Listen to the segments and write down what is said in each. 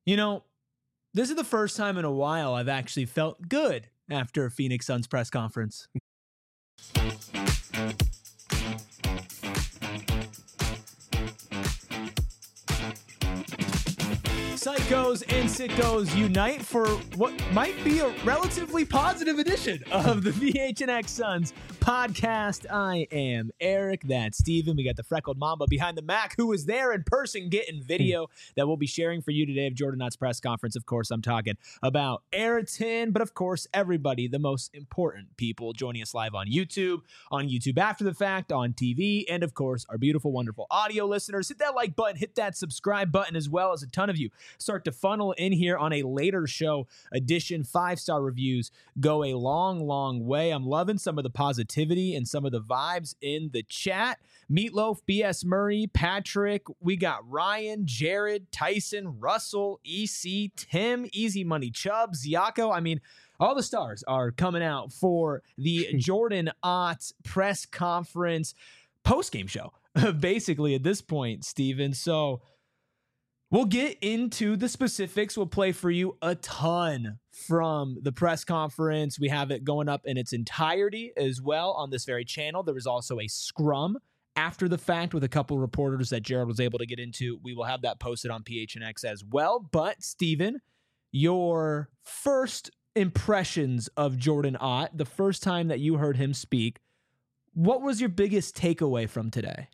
You know, this is the first time in a while I've actually felt good after a Phoenix Suns press conference. Psychos and sickos unite for what might be a relatively positive edition of the PHNX Suns podcast. I am Eric, that's Steven. We got the freckled mamba behind the Mac who is there in person getting video that we'll be sharing for you today of Jordan Knott's press conference. Of course, I'm talking about Ayrton, but of course, everybody, the most important people joining us live on YouTube after the fact, on TV, and of course, our beautiful, wonderful audio listeners. Hit that like button, hit that subscribe button, as well as a ton of you start to funnel in here on a later show edition. 5-star reviews go a long way. I'm loving some of the positivity and some of the vibes in the chat. Meatloaf, BS Murray, Patrick, we got Ryan, Jared, Tyson, Russell, EC, Tim, Easy Money Chubbs, Yako. I mean, all the stars are coming out for the Jordan Ott press conference post-game show, basically at this point, Steven. So we'll get into the specifics. We'll play for you a ton from the press conference. We have it going up in its entirety as well on this very channel. There was also a scrum after the fact with a couple reporters that Jared was able to get into. We will have that posted on PHNX as well. But, Steven, your first impressions of Jordan Ott, the first time that you heard him speak, what was your biggest takeaway from today?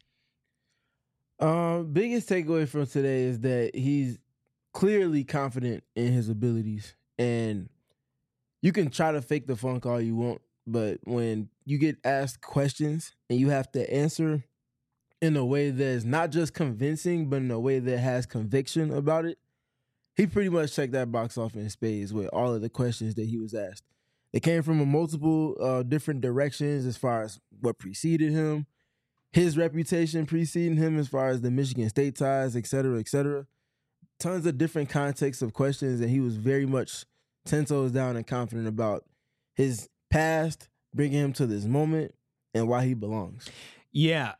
Biggest takeaway from today is that he's clearly confident in his abilities, and you can try to fake the funk all you want, but when you get asked questions and you have to answer in a way that's not just convincing, but in a way that has conviction about it, he pretty much checked that box off in spades with all of the questions that he was asked. They came from multiple different directions as far as what preceded him, his reputation preceding him as far as the Michigan State ties, et cetera, et cetera. Tons of different contexts of questions, and he was very much 10 toes down and confident about his past, bringing him to this moment, and why he belongs. Yeah,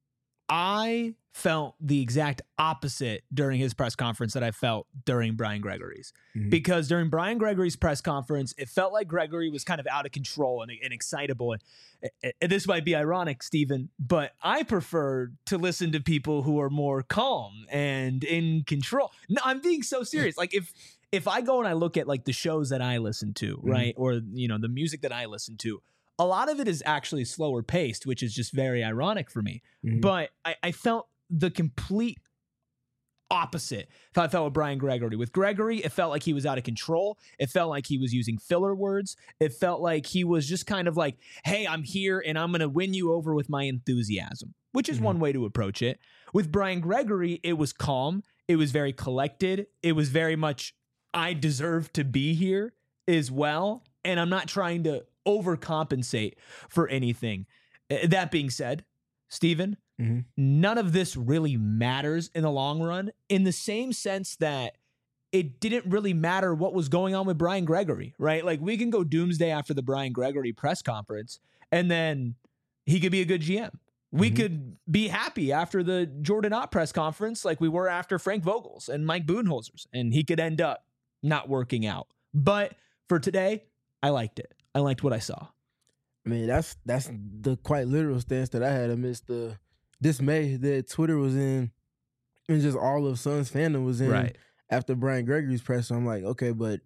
I felt the exact opposite during his press conference that I felt during Brian Gregory's. Mm-hmm. Because during Brian Gregory's press conference, it felt like Gregory was kind of out of control and excitable. And this might be ironic, Steven, but I prefer to listen to people who are more calm and in control. No, I'm being so serious. Like if I go and I look at like the shows that I listen to, mm-hmm. right, or the music that I listen to, a lot of it is actually slower paced, which is just very ironic for me. Mm-hmm. But I felt the complete opposite. I felt with Brian Gregory. With Gregory, it felt like he was out of control. It felt like he was using filler words. It felt like he was just kind of like, hey, I'm here and I'm going to win you over with my enthusiasm, which is mm-hmm. one way to approach it. With Brian Gregory, it was calm. It was very collected. It was very much, I deserve to be here as well. And I'm not trying to overcompensate for anything. That being said, Steven, mm-hmm. none of this really matters in the long run, in the same sense that it didn't really matter what was going on with Brian Gregory, right? Like, we can go doomsday after the Brian Gregory press conference, and then he could be a good GM. We mm-hmm. could be happy after the Jordan Ott press conference like we were after Frank Vogel's and Mike Budenholzer's, and he could end up not working out. But for today, I liked it. I liked what I saw. I mean, that's the quite literal stance that I had amidst the dismay that Twitter was in and just all of Suns fandom was in right. after Brian Gregory's press. So I'm like, okay, but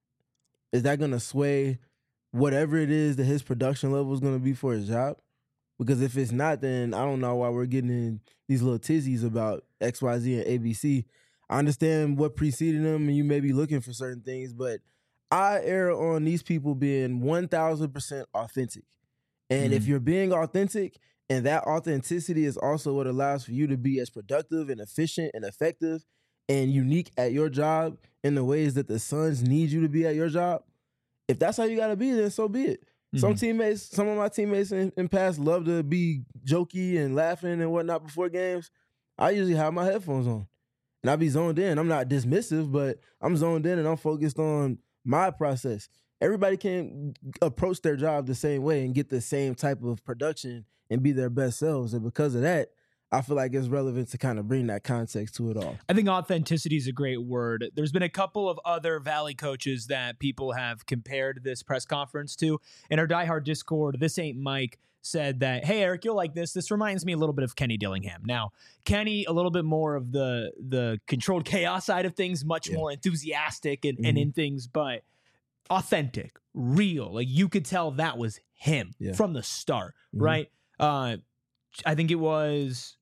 is that going to sway whatever it is that his production level is going to be for his job? Because if it's not, then I don't know why we're getting in these little tizzies about XYZ and ABC. I understand what preceded them and you may be looking for certain things, but I err on these people being 1,000% authentic. And if you're being authentic, and that authenticity is also what allows for you to be as productive and efficient and effective and unique at your job in the ways that the Suns need you to be at your job, if that's how you got to be, then so be it. Mm-hmm. Some of my teammates in past love to be jokey and laughing and whatnot before games. I usually have my headphones on. And I be zoned in. I'm not dismissive, but I'm zoned in and I'm focused on my process. Everybody can't approach their job the same way and get the same type of production and be their best selves. And because of that, I feel like it's relevant to kind of bring that context to it all. I think authenticity is a great word. There's been a couple of other Valley coaches that people have compared this press conference to. In our diehard Discord, This Ain't Mike said that, hey, Eric, you'll like this. This reminds me a little bit of Kenny Dillingham. Now, Kenny, a little bit more of the controlled chaos side of things, much more enthusiastic and in things, but authentic, real. Like, you could tell that was him from the start, right? I think it was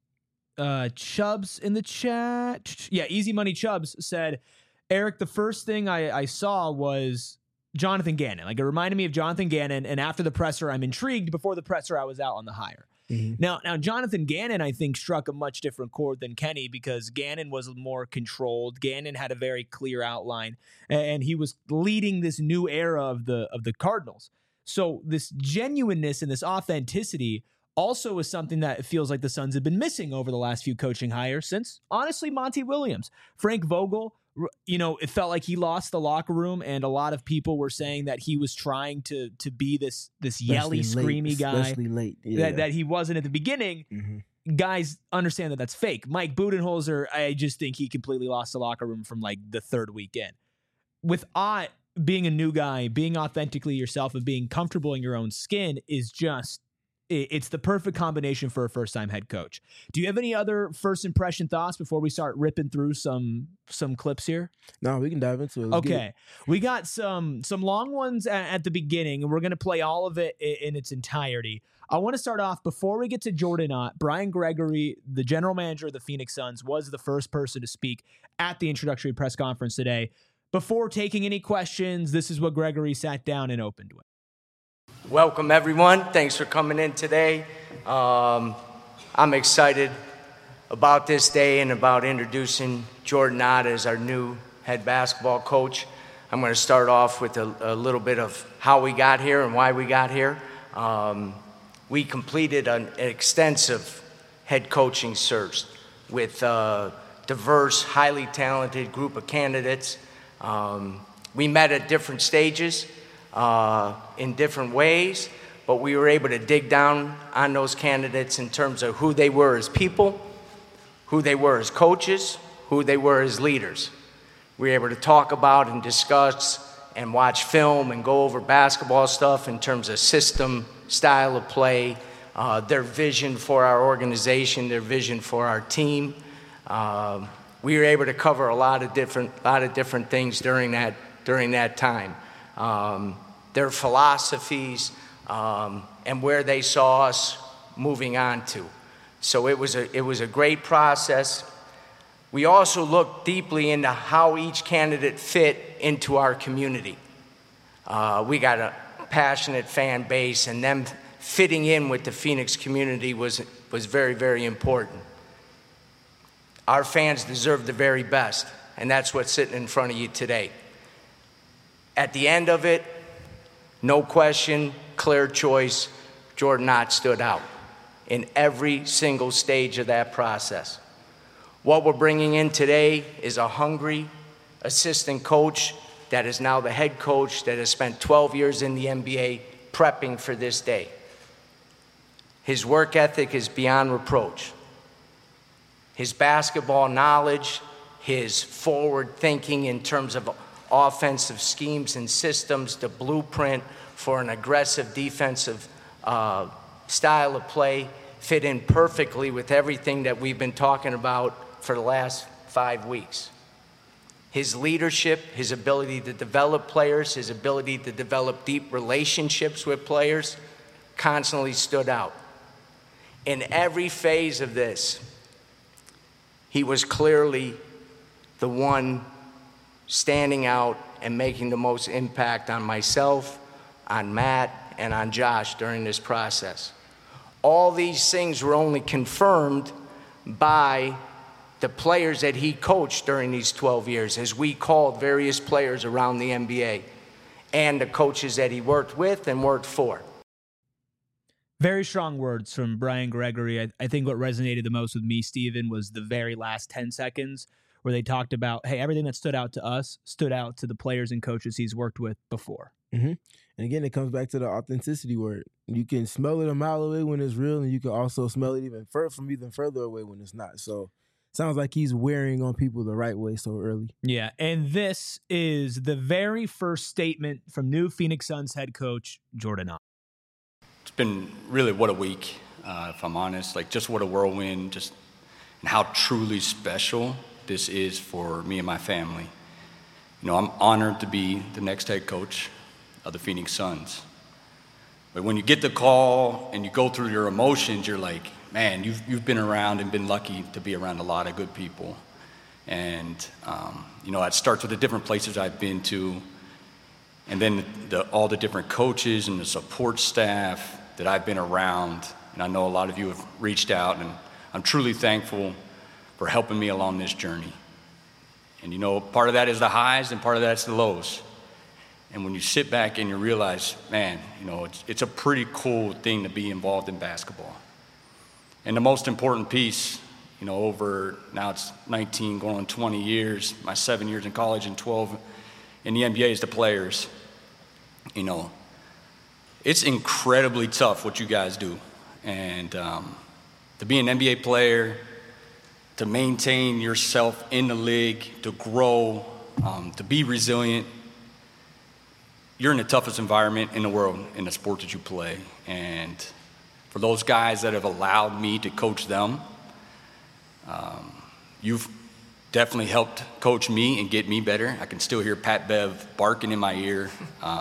Chubbs in the chat. Yeah, Easy Money Chubbs said, Eric, the first thing I saw was Jonathan Gannon. Like, it reminded me of Jonathan Gannon, and after the presser, I'm intrigued. Before the presser, I was out on the hire. Now, Jonathan Gannon, I think, struck a much different chord than Kenny because Gannon was more controlled. Gannon had a very clear outline, and he was leading this new era of the Cardinals. So this genuineness and this authenticity also is something that it feels like the Suns have been missing over the last few coaching hires since, honestly, Monty Williams. Frank Vogel, it felt like he lost the locker room, and a lot of people were saying that he was trying to be this yelly, screamy guy, especially late. That he wasn't at the beginning. Guys understand that that's fake. Mike Budenholzer, I just think he completely lost the locker room from like the third weekend. With Ott being a new guy, being authentically yourself, and being comfortable in your own skin is just, it's the perfect combination for a first-time head coach. Do you have any other first impression thoughts before we start ripping through some clips here? No, we can dive into it. Okay. We got some long ones at the beginning, and we're going to play all of it in its entirety. I want to start off, before we get to Jordan Ott, Brian Gregory, the general manager of the Phoenix Suns, was the first person to speak at the introductory press conference today. Before taking any questions, this is what Gregory sat down and opened with. Welcome, everyone. Thanks for coming in today. I'm excited about this day and about introducing Jordan Ott as our new head basketball coach. I'm going to start off with a little bit of how we got here and why we got here. We completed an extensive head coaching search with a diverse, highly talented group of candidates. We met at different stages. In different ways, but we were able to dig down on those candidates in terms of who they were as people, who they were as coaches, who they were as leaders. We were able to talk about and discuss and watch film and go over basketball stuff in terms of system, style of play, their vision for our organization, their vision for our team. We were able to cover a lot of different things during that time. Their philosophies, and where they saw us moving on to. So it was a great process. We also looked deeply into how each candidate fit into our community. We got a passionate fan base, and them fitting in with the Phoenix community was very, very important. Our fans deserve the very best, and that's what's sitting in front of you today. At the end of it, no question, clear choice, Jordan Ott stood out in every single stage of that process. What we're bringing in today is a hungry assistant coach that is now the head coach that has spent 12 years in the NBA prepping for this day. His work ethic is beyond reproach. His basketball knowledge, his forward thinking in terms of offensive schemes and systems, the blueprint for an aggressive defensive style of play fit in perfectly with everything that we've been talking about for the last 5 weeks. His leadership, his ability to develop players, his ability to develop deep relationships with players constantly stood out. In every phase of this, he was clearly the one standing out and making the most impact on myself, on Matt, and on Josh during this process. All these things were only confirmed by the players that he coached during these 12 years, as we called various players around the NBA, and the coaches that he worked with and worked for. Very strong words from Brian Gregory. I think what resonated the most with me, Steven, was the very last 10 seconds where they talked about, hey, everything that stood out to us stood out to the players and coaches he's worked with before. Mm-hmm. And again, it comes back to the authenticity word. You can smell it a mile away when it's real, and you can also smell it even further away when it's not. So sounds like he's wearing on people the right way so early. Yeah, and this is the very first statement from new Phoenix Suns head coach Jordan Ada. It's been really what a week, if I'm honest. Like, just what a whirlwind, just and how truly special this is for me and my family. You know, I'm honored to be the next head coach of the Phoenix Suns. But when you get the call and you go through your emotions, you're like, man, you've been around and been lucky to be around a lot of good people. And, you know, it starts with the different places I've been to, and then all the different coaches and the support staff that I've been around. And I know a lot of you have reached out, and I'm truly thankful for helping me along this journey. And, you know, part of that is the highs and part of that's the lows. And when you sit back and you realize, man, you know, it's a pretty cool thing to be involved in basketball. And the most important piece, you know, over now it's 19 going on 20 years, my 7 years in college and 12 in the NBA is the players. You know, it's incredibly tough what you guys do. And to be an NBA player, to maintain yourself in the league, to grow, to be resilient, you're in the toughest environment in the world in the sport that you play. And for those guys that have allowed me to coach them, you've definitely helped coach me and get me better. I can still hear Pat Bev barking in my ear.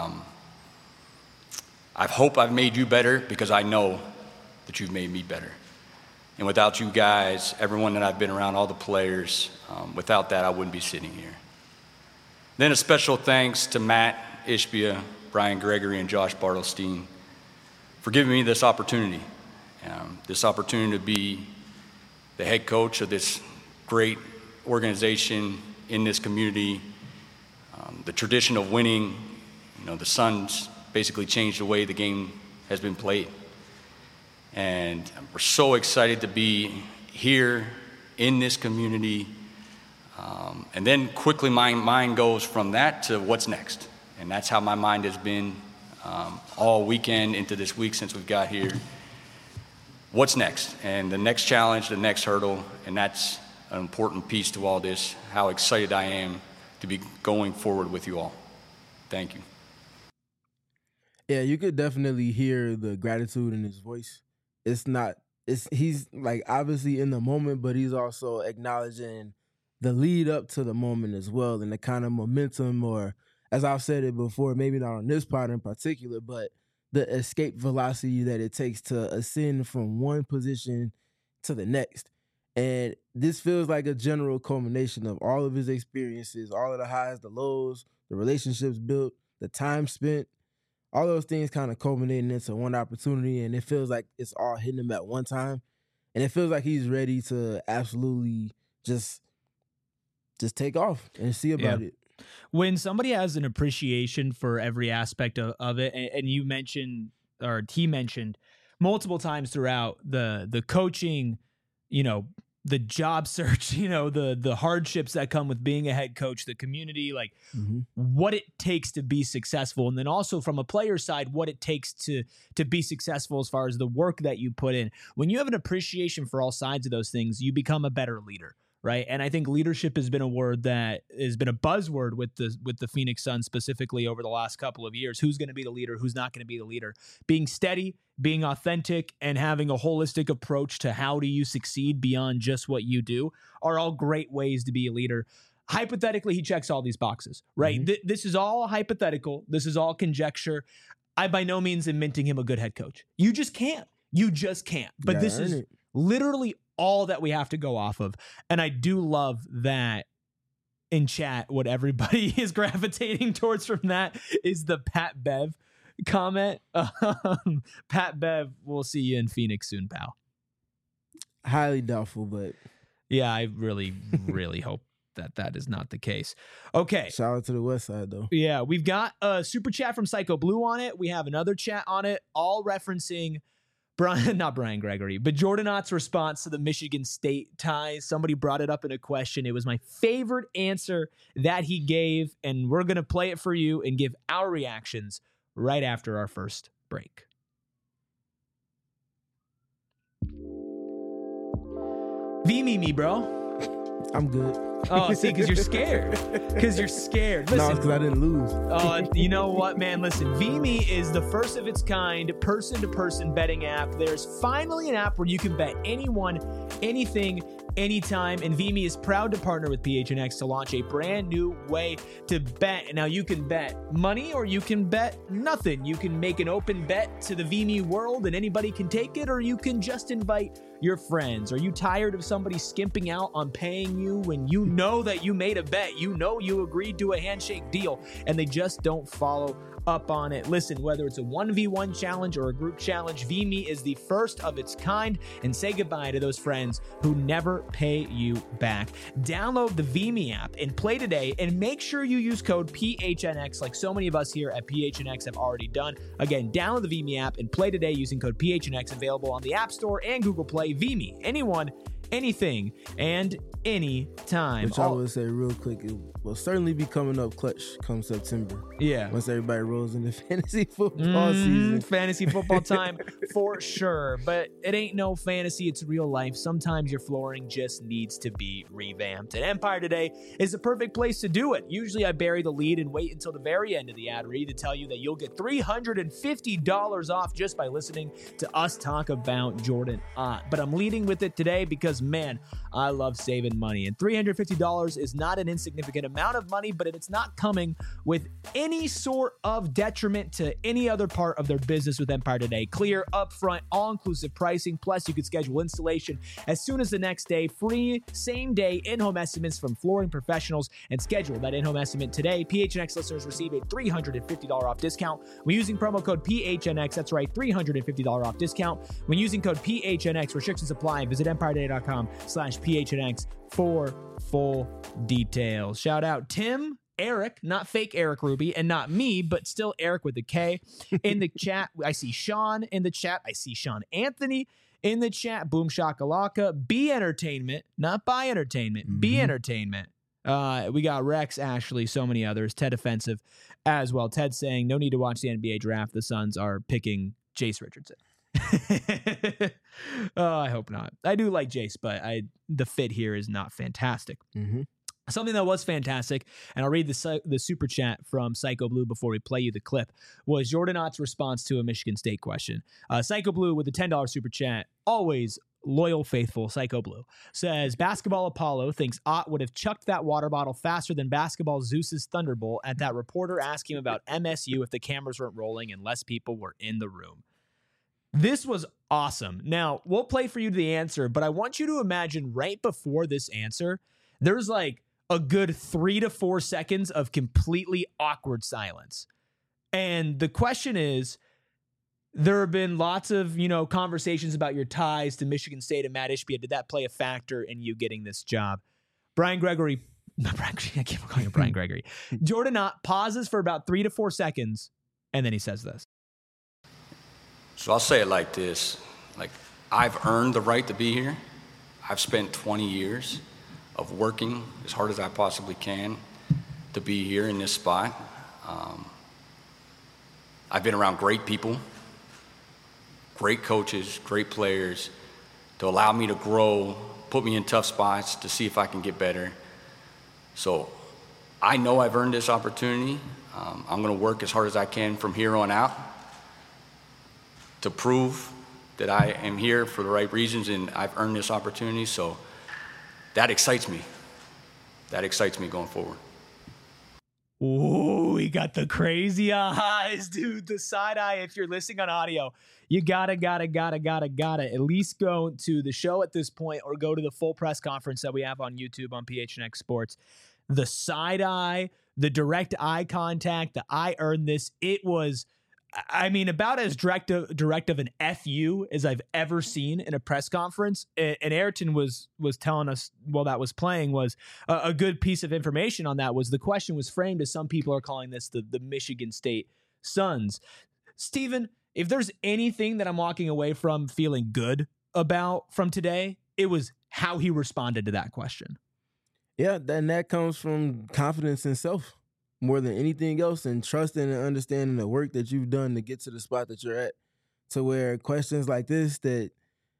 I hope I've made you better because I know that you've made me better. And without you guys, everyone that I've been around, all the players, without that, I wouldn't be sitting here. Then a special thanks to Matt Ishbia, Brian Gregory, and Josh Bartelstein for giving me this opportunity to be the head coach of this great organization in this community. The tradition of winning, you know, the Suns basically changed the way the game has been played. And we're so excited to be here in this community. And then quickly my mind goes from that to what's next. And that's how my mind has been all weekend into this week since we've got here. What's next? And the next challenge, the next hurdle, and that's an important piece to all this, how excited I am to be going forward with you all. Thank you. Yeah, you could definitely hear the gratitude in his voice. He's like obviously in the moment, but he's also acknowledging the lead up to the moment as well, and the kind of momentum, or as I've said it before, maybe not on this part in particular, but the escape velocity that it takes to ascend from one position to the next. And this feels like a general culmination of all of his experiences, all of the highs, the lows, the relationships built, the time spent, all those things kind of culminating into one opportunity, and it feels like it's all hitting him at one time. And it feels like he's ready to absolutely just take off and see about it. When somebody has an appreciation for every aspect of it, and you mentioned, or he mentioned multiple times throughout the coaching, you know, the job search, you know, the hardships that come with being a head coach, the community, like what it takes to be successful. And then also from a player's side, what it takes to be successful as far as the work that you put in. When you have an appreciation for all sides of those things, you become a better leader. Right. And I think leadership has been a word that has been a buzzword with the Phoenix Suns specifically over the last couple of years. Who's going to be the leader? Who's not going to be the leader? Being steady, being authentic, and having a holistic approach to how do you succeed beyond just what you do are all great ways to be a leader. Hypothetically, he checks all these boxes, right? This is all hypothetical. This is all conjecture. I by no means am minting him a good head coach. You just can't. You just can't. But this is literally all that we have to go off of. And I do love that in chat, what everybody is gravitating towards from that is the Pat Bev comment. Pat Bev, we'll see you in Phoenix soon, pal. Highly doubtful, but yeah, I really, really hope that is not the case. Okay. Shout out to the West Side, though. Yeah, we've got a super chat from Psycho Blue on it. We have another chat on it, all referencing not Brian Gregory, but Jordan Ott's response to the Michigan State ties. Somebody brought it up in a question. It was my favorite answer that he gave, and we're going to play it for you and give our reactions right after our first break. V-me, bro. I'm good. Oh, see, because you're scared. Because you're scared. No, Listen, because I didn't lose. you know what, man? Listen, V-me is the first of its kind person-to-person betting app. There's finally an app where you can bet anyone, anything, anytime, and V-me is proud to partner with PHNX to launch a brand new way to bet. Now, you can bet money or you can bet nothing. You can make an open bet to the V-me world and anybody can take it, or you can just invite your friends. Are you tired of somebody skimping out on paying you when you know that you made a bet? You know you agreed to a handshake deal and they just don't follow up on it. Listen, whether it's a 1v1 challenge or a group challenge, V-me is the first of its kind, and say goodbye to those friends who never pay you back. Download the V-me app and play today, and make sure you use code PHNX like so many of us here at PHNX have already done. Again, download the V-me app and play today using code PHNX, available on the App Store and Google Play. V-me, anyone, anything, and anytime. Which I would say real quick, it will certainly be coming up clutch come September. Yeah. Once everybody rolls into fantasy football season. Fantasy football time for sure. But it ain't no fantasy, it's real life. Sometimes your flooring just needs to be revamped. And Empire Today is the perfect place to do it. Usually I bury the lead and wait until the very end of the ad read to tell you that you'll get $350 off just by listening to us talk about Jordan Ott. But I'm leading with it today because, man, I love saving money. And $350 is not an insignificant amount of money, but it's not coming with any sort of detriment to any other part of their business with Empire Today. Clear, upfront, all-inclusive pricing, plus you can schedule installation as soon as the next day. Free same-day in-home estimates from flooring professionals, and schedule that in-home estimate today. PHNX listeners receive a $350 off discount when using promo code PHNX. That's right, $350 off discount when using code PHNX. Restrictions apply. Visit EmpireToday.com/PHNX for full details. Shout out Tim, Eric, not fake Eric Ruby, and not me, but still Eric with a K in the chat. I see Sean in the chat. I see Sean Anthony in the chat. Boom Shakalaka. B Entertainment, not Buy Entertainment. B Entertainment. We got Rex, Ashley, so many others. Ted Offensive as well. Ted saying, no need to watch the NBA draft. The Suns are picking Jace Richardson. I hope not. I do like Jace, but the fit here is not fantastic. Something that was fantastic, and I'll read the super chat from Psycho Blue before we play you the clip, was Jordan Ott's response to a Michigan State question. Psycho Blue with a $10 super chat, always loyal, faithful Psycho Blue, says, Basketball Apollo thinks Ott would have chucked that water bottle faster than Basketball Zeus's Thunderbolt at that reporter asking him about MSU if the cameras weren't rolling and less people were in the room. This was awesome. Now, we'll play for you the answer, but I want you to imagine right before this answer, there's like a good 3 to 4 seconds of completely awkward silence. And the question is, there have been lots of, conversations about your ties to Michigan State and Matt Ishbia. Did that play a factor in you getting this job? Brian Gregory, I keep calling him Brian Gregory. Jordan Ott pauses for about 3 to 4 seconds, and then he says this. So I'll say it like this. Like, I've earned the right to be here. I've spent 20 years of working as hard as I possibly can to be here in this spot. I've been around great people, great coaches, great players to allow me to grow, put me in tough spots to see if I can get better. So I know I've earned this opportunity. I'm going to work as hard as I can from here on out to prove that I am here for the right reasons and I've earned this opportunity. So that excites me. That excites me going forward. Ooh, we got the crazy eyes, dude. The side eye. If you're listening on audio, you gotta at least go to the show at this point or go to the full press conference that we have on YouTube on PHNX Sports. The side eye, the direct eye contact, the I earned this. It was, about as direct of an FU as I've ever seen in a press conference. And Ayrton was telling us while that was playing was a good piece of information on that was the question was framed as some people are calling this the Michigan State Suns. Steven, if there's anything that I'm walking away from feeling good about from today, it was how he responded to that question. Yeah, and that comes from confidence in self more than anything else, and trusting and understanding the work that you've done to get to the spot that you're at, to where questions like this that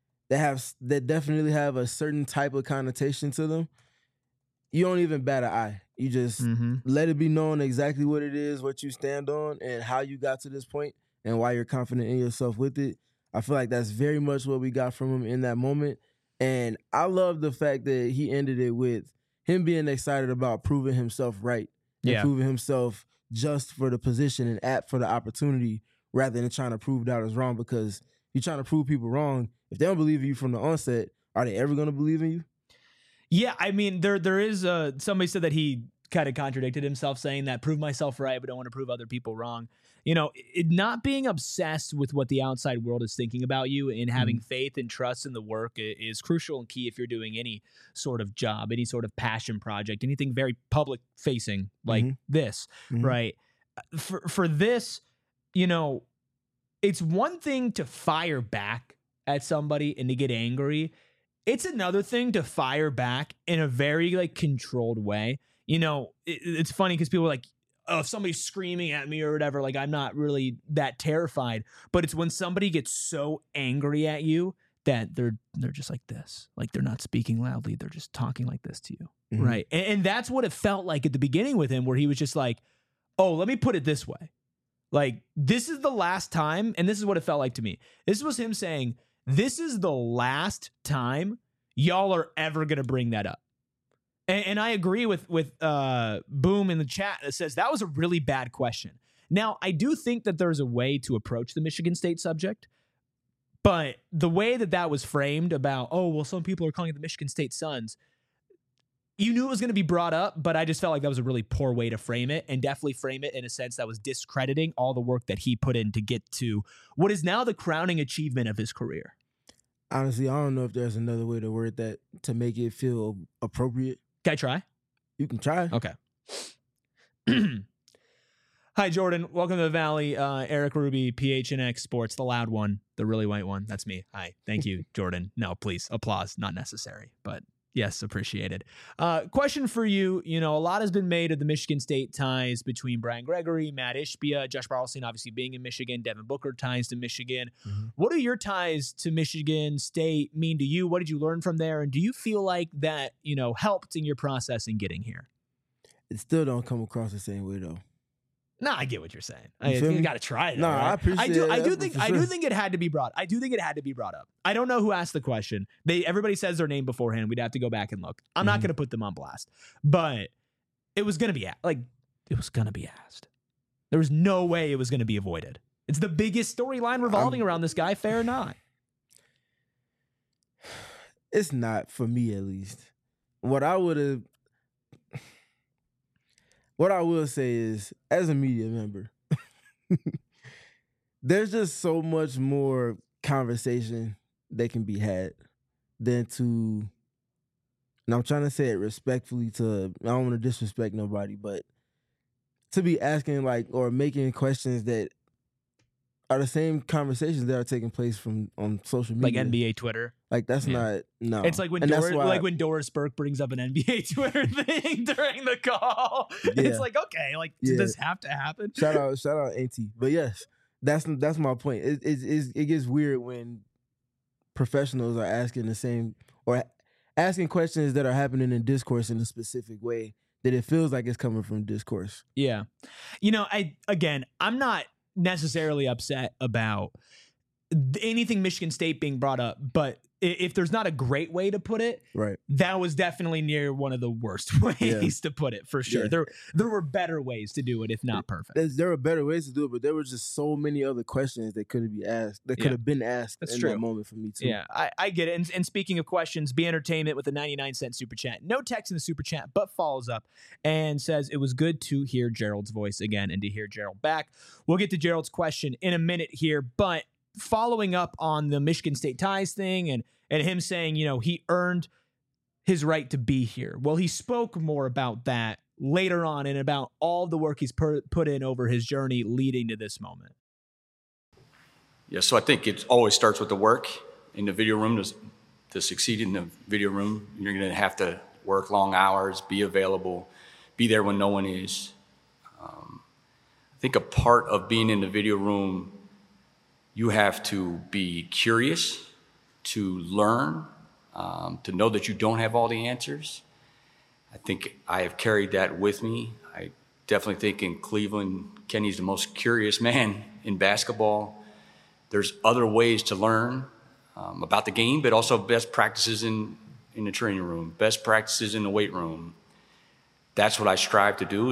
definitely have a certain type of connotation to them, you don't even bat an eye. You just let it be known exactly what it is, what you stand on, and how you got to this point, and why you're confident in yourself with it. I feel like that's very much what we got from him in that moment. And I love the fact that he ended it with him being excited about proving himself right, and proving himself just for the position and apt for the opportunity, rather than trying to prove doubters wrong. Because you're trying to prove people wrong. If they don't believe in you from the onset, are they ever going to believe in you? Yeah, I mean, there is somebody said that he kind of contradicted himself, saying that prove myself right, but don't want to prove other people wrong. You know, not being obsessed with what the outside world is thinking about you and having faith and trust in the work is crucial and key if you're doing any sort of job, any sort of passion project, anything very public facing like this, right? For this, you know, it's one thing to fire back at somebody and to get angry. It's another thing to fire back in a very like controlled way. You know, it's funny because people are like, oh, if somebody's screaming at me or whatever, like I'm not really that terrified. But it's when somebody gets so angry at you that they're just like this. Like they're not speaking loudly. They're just talking like this to you. Right. And that's what it felt like at the beginning with him, where he was just like, oh, let me put it this way. Like, this is the last time. And this is what it felt like to me. This was him saying, this is the last time y'all are ever going to bring that up. And I agree with Boom in the chat that says that was a really bad question. Now, I do think that there's a way to approach the Michigan State subject, but the way that was framed about, oh, well, some people are calling it the Michigan State Suns, you knew it was going to be brought up, but I just felt like that was a really poor way to frame it, and definitely frame it in a sense that was discrediting all the work that he put in to get to what is now the crowning achievement of his career. Honestly, I don't know if there's another way to word that to make it feel appropriate. Can I try? You can try. Okay. Hi, Jordan. Welcome to the Valley. Eric Ruby, PHNX Sports, the loud one, the really white one. That's me. Hi. Thank you, Jordan. No, please. Applause. Not necessary, but yes, appreciated. Question for you. You know, a lot has been made of the Michigan State ties between Brian Gregory, Matt Ishbia, Josh Barlstein, obviously being in Michigan, Devin Booker ties to Michigan. What do your ties to Michigan State mean to you? What did you learn from there? And do you feel like that, you know, helped in your process in getting here? It still don't come across the same way, though. No, I get what you're saying. You got to try it. No, right? I appreciate it. I do think it had to be brought. I do think it had to be brought up. I don't know who asked the question. Everybody says their name beforehand. We'd have to go back and look. I'm not going to put them on blast, but it was going to be asked. There was no way it was going to be avoided. It's the biggest storyline revolving around this guy. Fair or not? It's not, for me at least. What I will say is, as a media member, there's just so much more conversation that can be had than to, and I'm trying to say it respectfully I don't want to disrespect nobody, but to be asking or making questions that are the same conversations that are taking place on social media. Like NBA Twitter. Like that's not, no. It's like when when Doris Burke brings up an NBA Twitter thing during the call. Yeah. It's like, okay, does this have to happen? Shout out AT. But yes, that's my point. It gets weird when professionals are asking the same or asking questions that are happening in discourse in a specific way that it feels like it's coming from discourse. Yeah. You know, I'm not necessarily upset about anything Michigan State being brought up, but if there's not a great way to put it, right, that was definitely near one of the worst ways to put it, for sure. Yeah. There were better ways to do it, if not perfect. There were better ways to do it, but there were just so many other questions that could have been asked in that moment for me too. Yeah, I get it. And speaking of questions, Be Entertainment with a 99-cent super chat. No text in the super chat, but follows up and says, it was good to hear Gerald's voice again and to hear Gerald back. We'll get to Gerald's question in a minute here, but following up on the Michigan State ties thing and him saying, you know, he earned his right to be here. Well, he spoke more about that later on and about all the work he's put in over his journey leading to this moment. Yeah, so I think it always starts with the work in the video room. To succeed in the video room, you're going to have to work long hours, be available, be there when no one is. I think a part of being in the video room, you have to be curious, to learn, to know that you don't have all the answers. I think I have carried that with me. I definitely think in Cleveland, Kenny's the most curious man in basketball. There's other ways to learn about the game, but also best practices in the training room, best practices in the weight room. That's what I strive to do.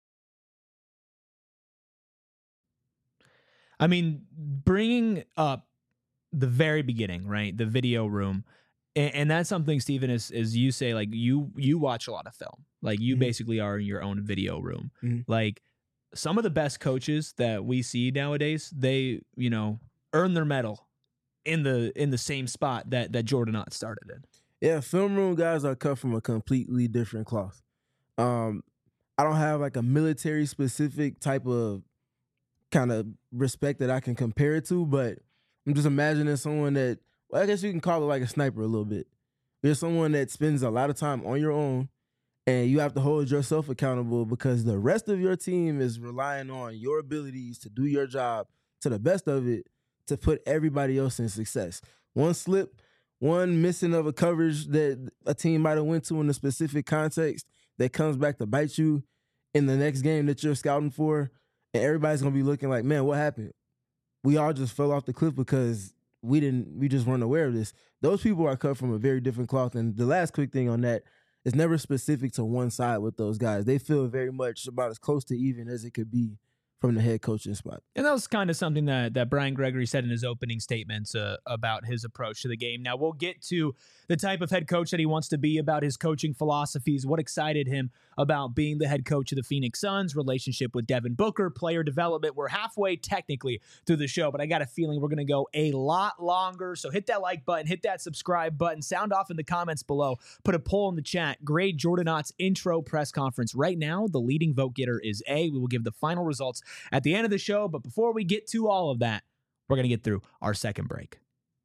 I mean, bringing up the very beginning, right? The video room. And that's something, Stephen, is you say, like, you watch a lot of film. Like, you basically are in your own video room. Like, some of the best coaches that we see nowadays, they, earn their medal in the same spot that Jordan Ott started in. Yeah, film room guys are cut from a completely different cloth. I don't have like a military specific type of kind of respect that I can compare it to, but I'm just imagining someone that, well, I guess you can call it like a sniper a little bit. There's someone that spends a lot of time on your own, and you have to hold yourself accountable because the rest of your team is relying on your abilities to do your job to the best of it to put everybody else in success. One slip, one missing of a coverage that a team might have went to in a specific context that comes back to bite you in the next game that you're scouting for, and everybody's going to be looking like, man, what happened? We all just fell off the cliff because we just weren't aware of this. Those people are cut from a very different cloth. And the last quick thing on that, it's never specific to one side with those guys. They feel very much about as close to even as it could be from the head coaching spot. And that was kind of something that Brian Gregory said in his opening statements about his approach to the game. Now, we'll get to the type of head coach that he wants to be, about his coaching philosophies, what excited him about being the head coach of the Phoenix Suns, relationship with Devin Booker, player development. We're halfway technically through the show, but I got a feeling we're going to go a lot longer. So hit that like button, hit that subscribe button, sound off in the comments below, put a poll in the chat. Grade Jordan Ott's intro press conference. Right now, the leading vote getter is A. We will give the final results at the end of the show, but before we get to all of that, we're going to get through our second break.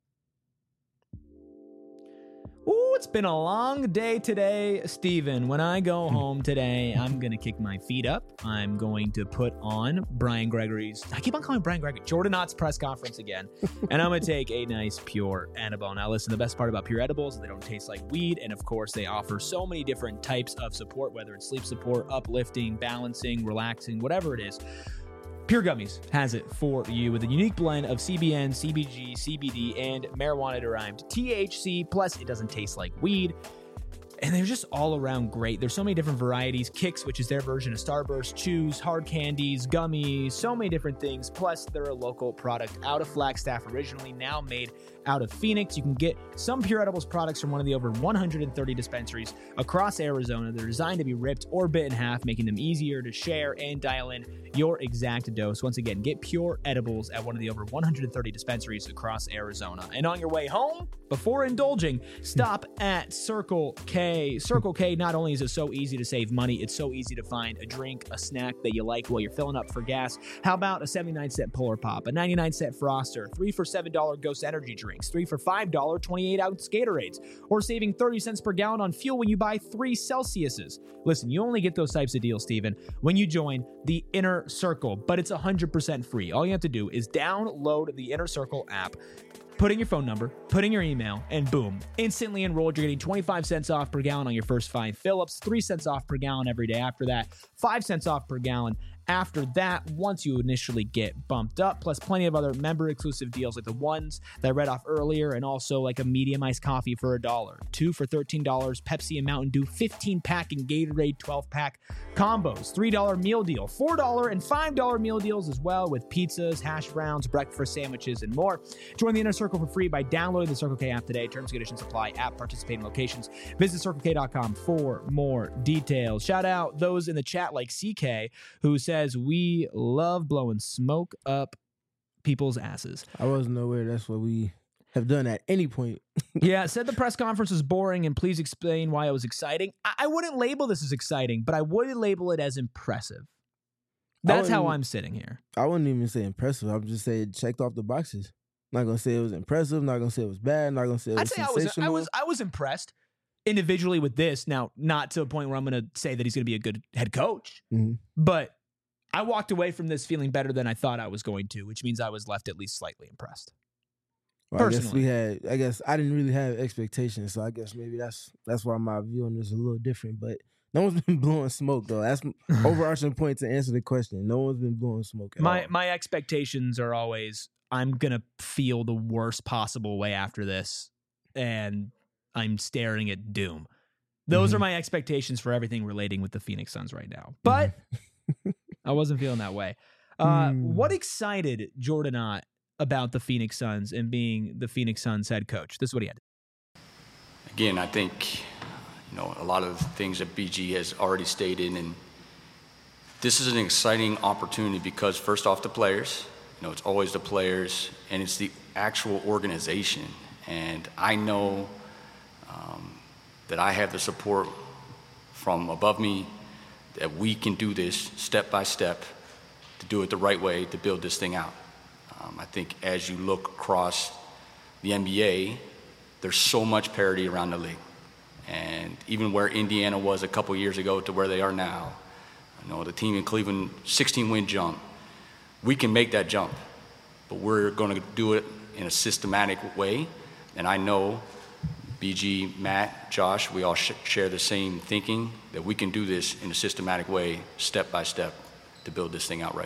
Ooh, it's been a long day today, Steven. When I go home today, I'm going to kick my feet up. I'm going to put on Brian Gregory's, I keep on calling Brian Gregory, Jordan Ott's press conference again. And I'm going to take a nice pure edible. Now listen, the best part about pure edibles, they don't taste like weed. And of course, they offer so many different types of support, whether it's sleep support, uplifting, balancing, relaxing, whatever it is. Pure Gummies has it for you with a unique blend of CBN, CBG, CBD, and marijuana-derived THC. Plus, it doesn't taste like weed. And they're just all around great. There's so many different varieties. Kicks, which is their version of Starburst, chews, hard candies, gummies, so many different things. Plus, they're a local product out of Flagstaff originally, now made out of Phoenix. You can get some Pure Edibles products from one of the over 130 dispensaries across Arizona. They're designed to be ripped or bit in half, making them easier to share and dial in your exact dose. Once again, get Pure Edibles at one of the over 130 dispensaries across Arizona. And on your way home, before indulging, stop at Circle K. Circle K, not only is it so easy to save money, it's so easy to find a drink, a snack that you like while you're filling up for gas. How about a 79-cent Polar Pop, a 99-cent Froster, 3 for $7 Ghost Energy drinks, 3 for $5 28-ounce Gatorades, or saving 30 cents per gallon on fuel when you buy 3 Celsiuses. Listen, you only get those types of deals, Steven, when you join the Inner Circle, but it's 100% free. All you have to do is download the Inner Circle app, put in your phone number, put in your email, and boom, instantly enrolled. You're getting 25 cents off per gallon on your first 5 fill-ups, 3 cents off per gallon every day after that, 5 cents off per gallon after that once you initially get bumped up, plus plenty of other member-exclusive deals like the ones that I read off earlier, and also like a medium iced coffee for $1, 2 for $13, Pepsi and Mountain Dew 15-pack and Gatorade 12-pack combos, $3 meal deal, $4 and $5 meal deals as well, with pizzas, hash browns, breakfast sandwiches, and more. Join the Inner Circle for free by downloading the Circle K app today. Terms and conditions apply at participating locations. Visit CircleK.com for more details. Shout out those in the chat like CK, who says we love blowing smoke up people's asses. I wasn't aware that's what we have done at any point. Yeah, said the press conference was boring, and please explain why it was exciting. I wouldn't label this as exciting, but I would label it as impressive. That's how I'm sitting here. I wouldn't even say impressive. I'm just saying it checked off the boxes. Not gonna say it was impressive. Not gonna say it was bad. Not gonna say it was sensational. I was impressed individually with this. Now, not to a point where I'm gonna say that he's gonna be a good head coach, but I walked away from this feeling better than I thought I was going to, which means I was left at least slightly impressed. Well, I guess I didn't really have expectations, so I guess maybe that's why my view on this is a little different. But no one's been blowing smoke, though. That's overarching point to answer the question. No one's been blowing smoke at all. My expectations are always, I'm going to feel the worst possible way after this, and I'm staring at doom. Those are my expectations for everything relating with the Phoenix Suns right now. But I wasn't feeling that way. What excited Jordan Ott about the Phoenix Suns and being the Phoenix Suns head coach? This is what he had. Again, I think, a lot of things that BG has already stated, and this is an exciting opportunity because first off, the players, it's always the players, and it's the actual organization. And I know that I have the support from above me that we can do this step by step to do it the right way to build this thing out. I think as you look across the NBA, there's so much parity around the league. And even where Indiana was a couple years ago to where they are now, the team in Cleveland, 16-win jump, we can make that jump, but we're going to do it in a systematic way. And I know BG, Matt, Josh, we all share the same thinking that we can do this in a systematic way, step by step, to build this thing out right.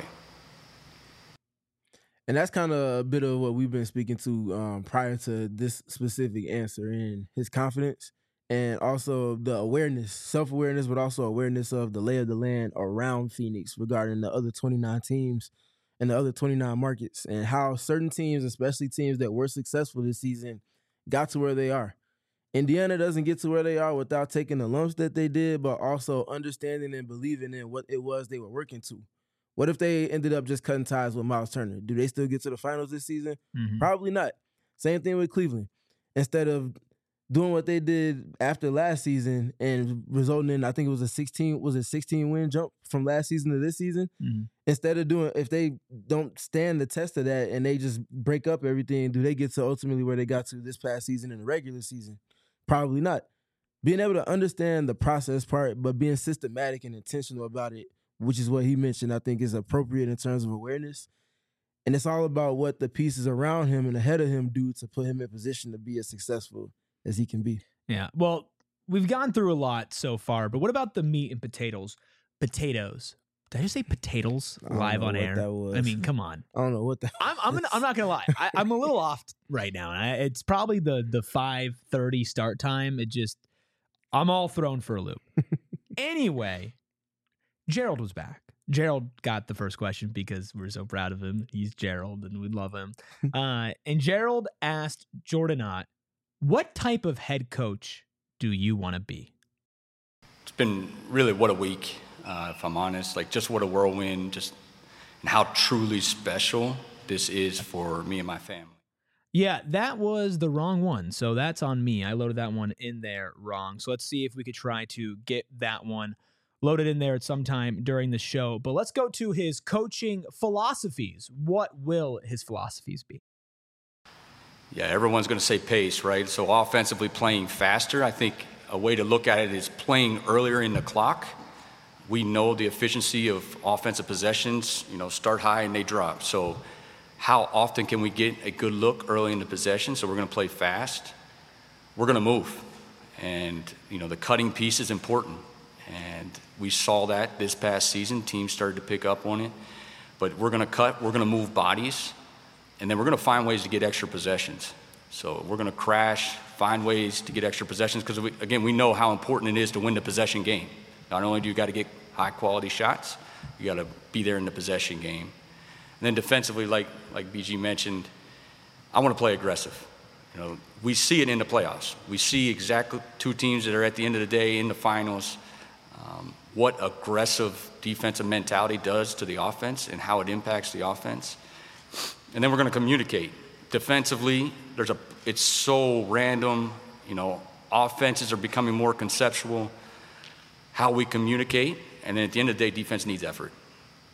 And that's kind of a bit of what we've been speaking to prior to this specific answer, in his confidence and also the awareness, self-awareness, but also awareness of the lay of the land around Phoenix regarding the other 29 teams and the other 29 markets, and how certain teams, especially teams that were successful this season, got to where they are. Indiana doesn't get to where they are without taking the lumps that they did, but also understanding and believing in what it was they were working to. What if they ended up just cutting ties with Miles Turner? Do they still get to the finals this season? Probably not. Same thing with Cleveland. Instead of doing what they did after last season and resulting in, I think it was a 16-win jump from last season to this season? Instead of doing, if they don't stand the test of that and they just break up everything, do they get to ultimately where they got to this past season in the regular season? Probably not. Being able to understand the process part, but being systematic and intentional about it, which is what he mentioned, I think is appropriate in terms of awareness. And it's all about what the pieces around him and ahead of him do to put him in position to be as successful as he can be. Yeah. Well, we've gone through a lot so far, but what about the meat and potatoes? Potatoes. Did I just say potatoes live on air? I mean, come on. I don't know what that I'm not gonna lie. I'm a little off right now. And it's probably the 5:30 start time. I'm all thrown for a loop. Anyway, Gerald was back. Gerald got the first question because we're so proud of him. He's Gerald and we love him. And Gerald asked Jordan Ott, what type of head coach do you want to be? It's been really what a week, if I'm honest. Just what a whirlwind, and how truly special this is for me and my family. Yeah, that was the wrong one. So that's on me. I loaded that one in there wrong. So let's see if we could try to get that one loaded in there at some time during the show. But let's go to his coaching philosophies. What will his philosophies be? Yeah, everyone's going to say pace, right? So offensively playing faster, I think a way to look at it is playing earlier in the clock. We know the efficiency of offensive possessions, start high and they drop. So how often can we get a good look early in the possession? So we're going to play fast. We're going to move. And, the cutting piece is important. And we saw that this past season. Teams started to pick up on it. But we're going to cut, we're going to move bodies, and then we're going to find ways to get extra possessions. So we're going to crash, find ways to get extra possessions, because, we know how important it is to win the possession game. Not only do you got to get high-quality shots, you got to be there in the possession game. And then defensively, like BG mentioned, I want to play aggressive. We see it in the playoffs. We see exactly two teams that are at the end of the day in the finals, what aggressive defensive mentality does to the offense and how it impacts the offense. And then we're going to communicate. Defensively, it's so random. Offenses are becoming more conceptual. How we communicate, and then at the end of the day, defense needs effort.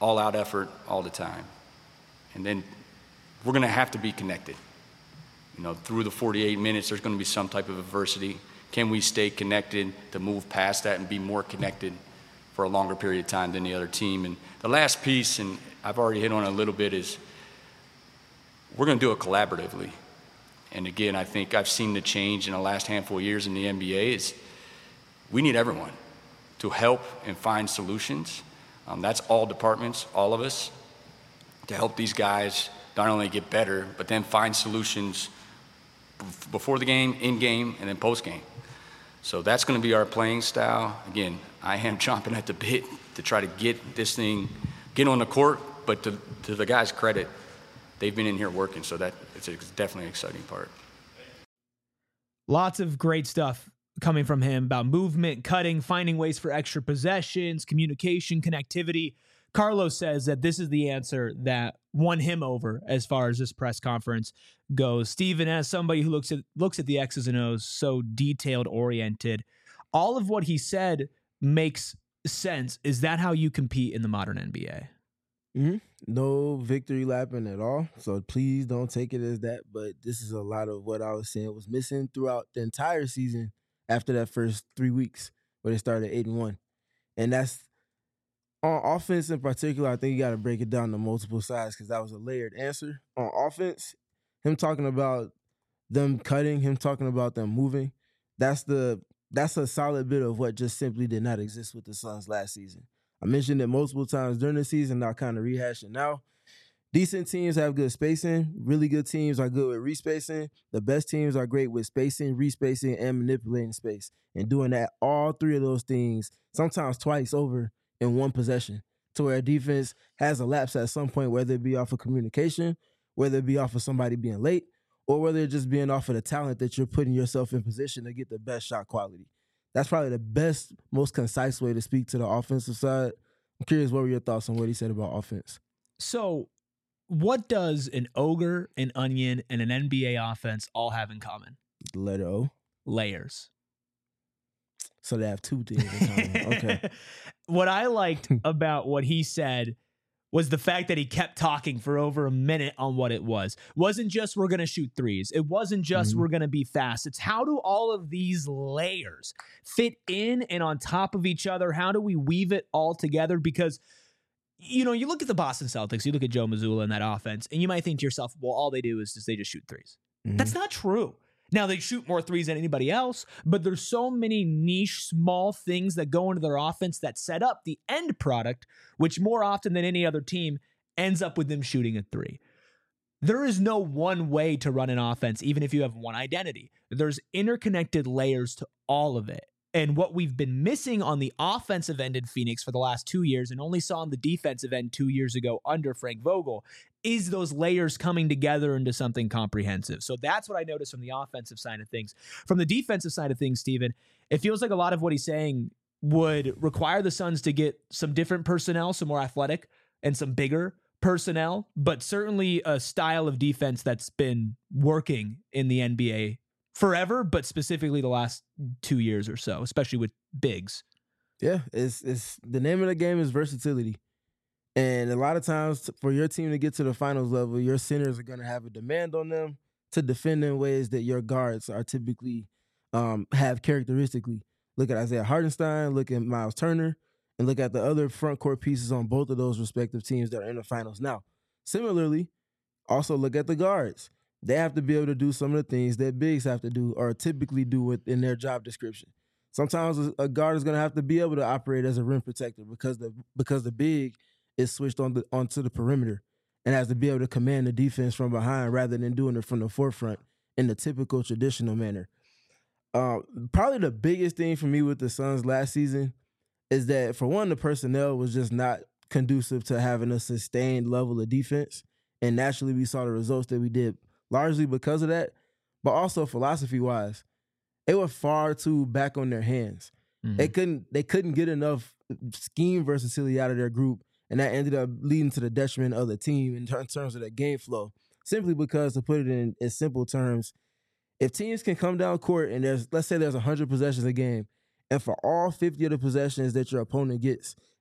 all-out effort all the time. And then we're going to have to be connected. You know, through the 48 minutes, there's going to be some type of adversity. Can we stay connected to move past that and be more connected for a longer period of time than the other team? And the last piece, and I've already hit on it a little bit, is we're going to do it collaboratively. And again, I think I've seen the change in the last handful of years in the NBA is we need everyone to help and find solutions. That's all departments, all of us, to help these guys not only get better, but then find solutions before the game, in game, and then post game. So that's going to be our playing style. Again, I am chomping at the bit to try to get this thing, get on the court, but to the guys' credit, they've been in here working, so that it's definitely an exciting part. Lots of great stuff coming from him about movement, cutting, finding ways for extra possessions, communication, connectivity. Carlos says that this is the answer that won him over as far as this press conference goes. Steven, as somebody who looks at the X's and O's, so detailed oriented, all of what he said makes sense. Is that how you compete in the modern NBA? Mm-hmm. No victory lapping at all. So please don't take it as that. But this is a lot of what I was saying was missing throughout the entire season after that first 3 weeks where they started 8-1. And that's on offense in particular. I think you got to break it down to multiple sides because that was a layered answer. On offense, him talking about them cutting, him talking about them moving, that's a solid bit of what just simply did not exist with the Suns last season. I mentioned it multiple times during the season. I'll kind of rehash it now. Decent teams have good spacing. Really good teams are good with respacing. The best teams are great with spacing, respacing, and manipulating space. And doing that, all three of those things, sometimes twice over in one possession, to where a defense has a lapse at some point, whether it be off of communication, whether it be off of somebody being late, or whether it just being off of the talent that you're putting yourself in position to get the best shot quality. That's probably the best, most concise way to speak to the offensive side. I'm curious, what were your thoughts on what he said about offense? So what does an ogre, an onion, and an NBA offense all have in common? The letter O? Layers. So they have two things in common. Okay. What I liked about what he said was the fact that he kept talking for over a minute on what it was. Wasn't just we're going to shoot threes. It wasn't just we're going to be fast. It's how do all of these layers fit in and on top of each other? How do we weave it all together? Because, you know, you look at the Boston Celtics, you look at Joe Mazzulla and that offense, and you might think to yourself, well, all they do is they just shoot threes. That's not true. Now, they shoot more threes than anybody else, but there's so many niche, small things that go into their offense that set up the end product, which more often than any other team ends up with them shooting a three. There is no one way to run an offense, even if you have one identity. There's interconnected layers to all of it. And what we've been missing on the offensive end in Phoenix for the last 2 years and only saw on the defensive end 2 years ago under Frank Vogel is those layers coming together into something comprehensive. So that's what I noticed from the offensive side of things. From the defensive side of things, Steven, it feels like a lot of what he's saying would require the Suns to get some different personnel, some more athletic and some bigger personnel, but certainly a style of defense that's been working in the NBA forever, but specifically the last 2 years or so, especially with bigs. Yeah, it's the name of the game is versatility. And a lot of times for your team to get to the finals level, your centers are going to have a demand on them to defend in ways that your guards are typically have characteristically. Look at Isaiah Hartenstein, look at Miles Turner, and look at the other front court pieces on both of those respective teams that are in the finals now. Similarly, also look at the guards. They have to be able to do some of the things that bigs have to do or typically do within their job description. Sometimes a guard is going to have to be able to operate as a rim protector because the big is switched onto the perimeter and has to be able to command the defense from behind rather than doing it from the forefront in the typical traditional manner. Probably the biggest thing for me with the Suns last season is that, for one, the personnel was just not conducive to having a sustained level of defense. And naturally, we saw the results that we did largely because of that, but also philosophy-wise, they were far too back on their hands. Mm-hmm. They couldn't get enough scheme versatility out of their group, and that ended up leading to the detriment of the team in terms of their game flow. Simply because, to put it in simple terms, if teams can come down court and let's say there's 100 possessions a game, and for all 50 of the possessions that your opponent gets,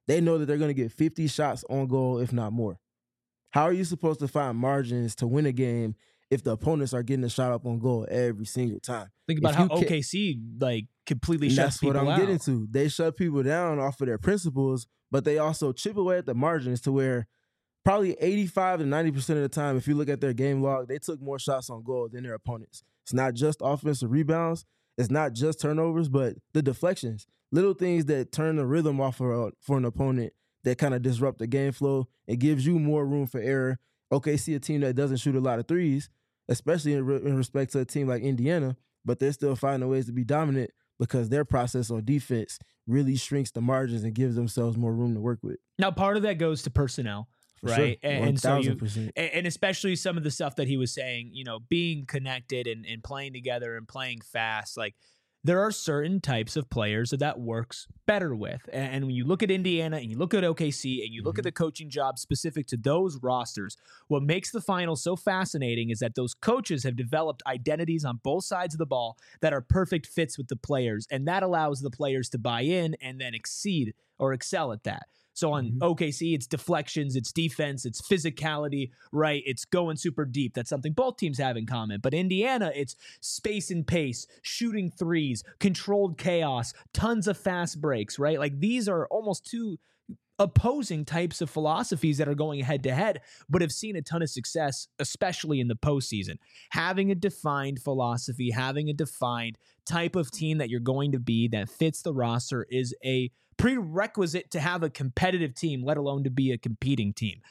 They know that they're going to get 50 shots on goal, if not more. How are you supposed to find margins to win a game if the opponents are getting a shot up on goal every single time? Think about how OKC completely shuts people out. That's what I'm getting to. They shut people down off of their principles, but they also chip away at the margins to where probably 85 to 90% of the time, if you look at their game log, they took more shots on goal than their opponents. It's not just offensive rebounds. It's not just turnovers, but the deflections. Little things that turn the rhythm off for an opponent that kind of disrupt the game flow. It gives you more room for error. OKC, a team that doesn't shoot a lot of threes, especially in respect to a team like Indiana, but they're still finding ways to be dominant because their process on defense really shrinks the margins and gives themselves more room to work with. Now, part of that goes to personnel, right? Sure. And so and especially some of the stuff that he was saying, being connected and playing together and playing fast, like there are certain types of players that works better with. And when you look at Indiana and you look at OKC and you look at the coaching job specific to those rosters, what makes the finals so fascinating is that those coaches have developed identities on both sides of the ball that are perfect fits with the players. And that allows the players to buy in and then exceed or excel at that. So on OKC, it's deflections, it's defense, it's physicality, right? It's going super deep. That's something both teams have in common. But Indiana, it's space and pace, shooting threes, controlled chaos, tons of fast breaks, right? Like these are almost two opposing types of philosophies that are going head to head, but have seen a ton of success, especially in the postseason. Having a defined philosophy, having a defined type of team that you're going to be that fits the roster is a prerequisite to have a competitive team, let alone to be a competing team.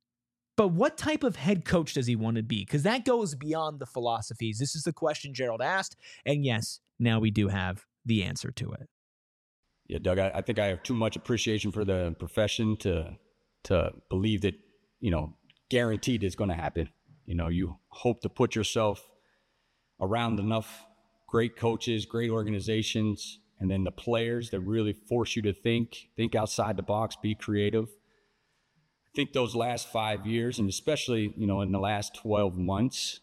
But what type of head coach does he want to be? Because that goes beyond the philosophies. This is the question Gerald asked, and yes, now we do have the answer to it. Yeah, Doug, I think I have too much appreciation for the profession to believe that, guaranteed it's going to happen. You hope to put yourself around enough great coaches, great organizations, and then the players that really force you to think outside the box, be creative. I think those last 5 years, and especially, in the last 12 months,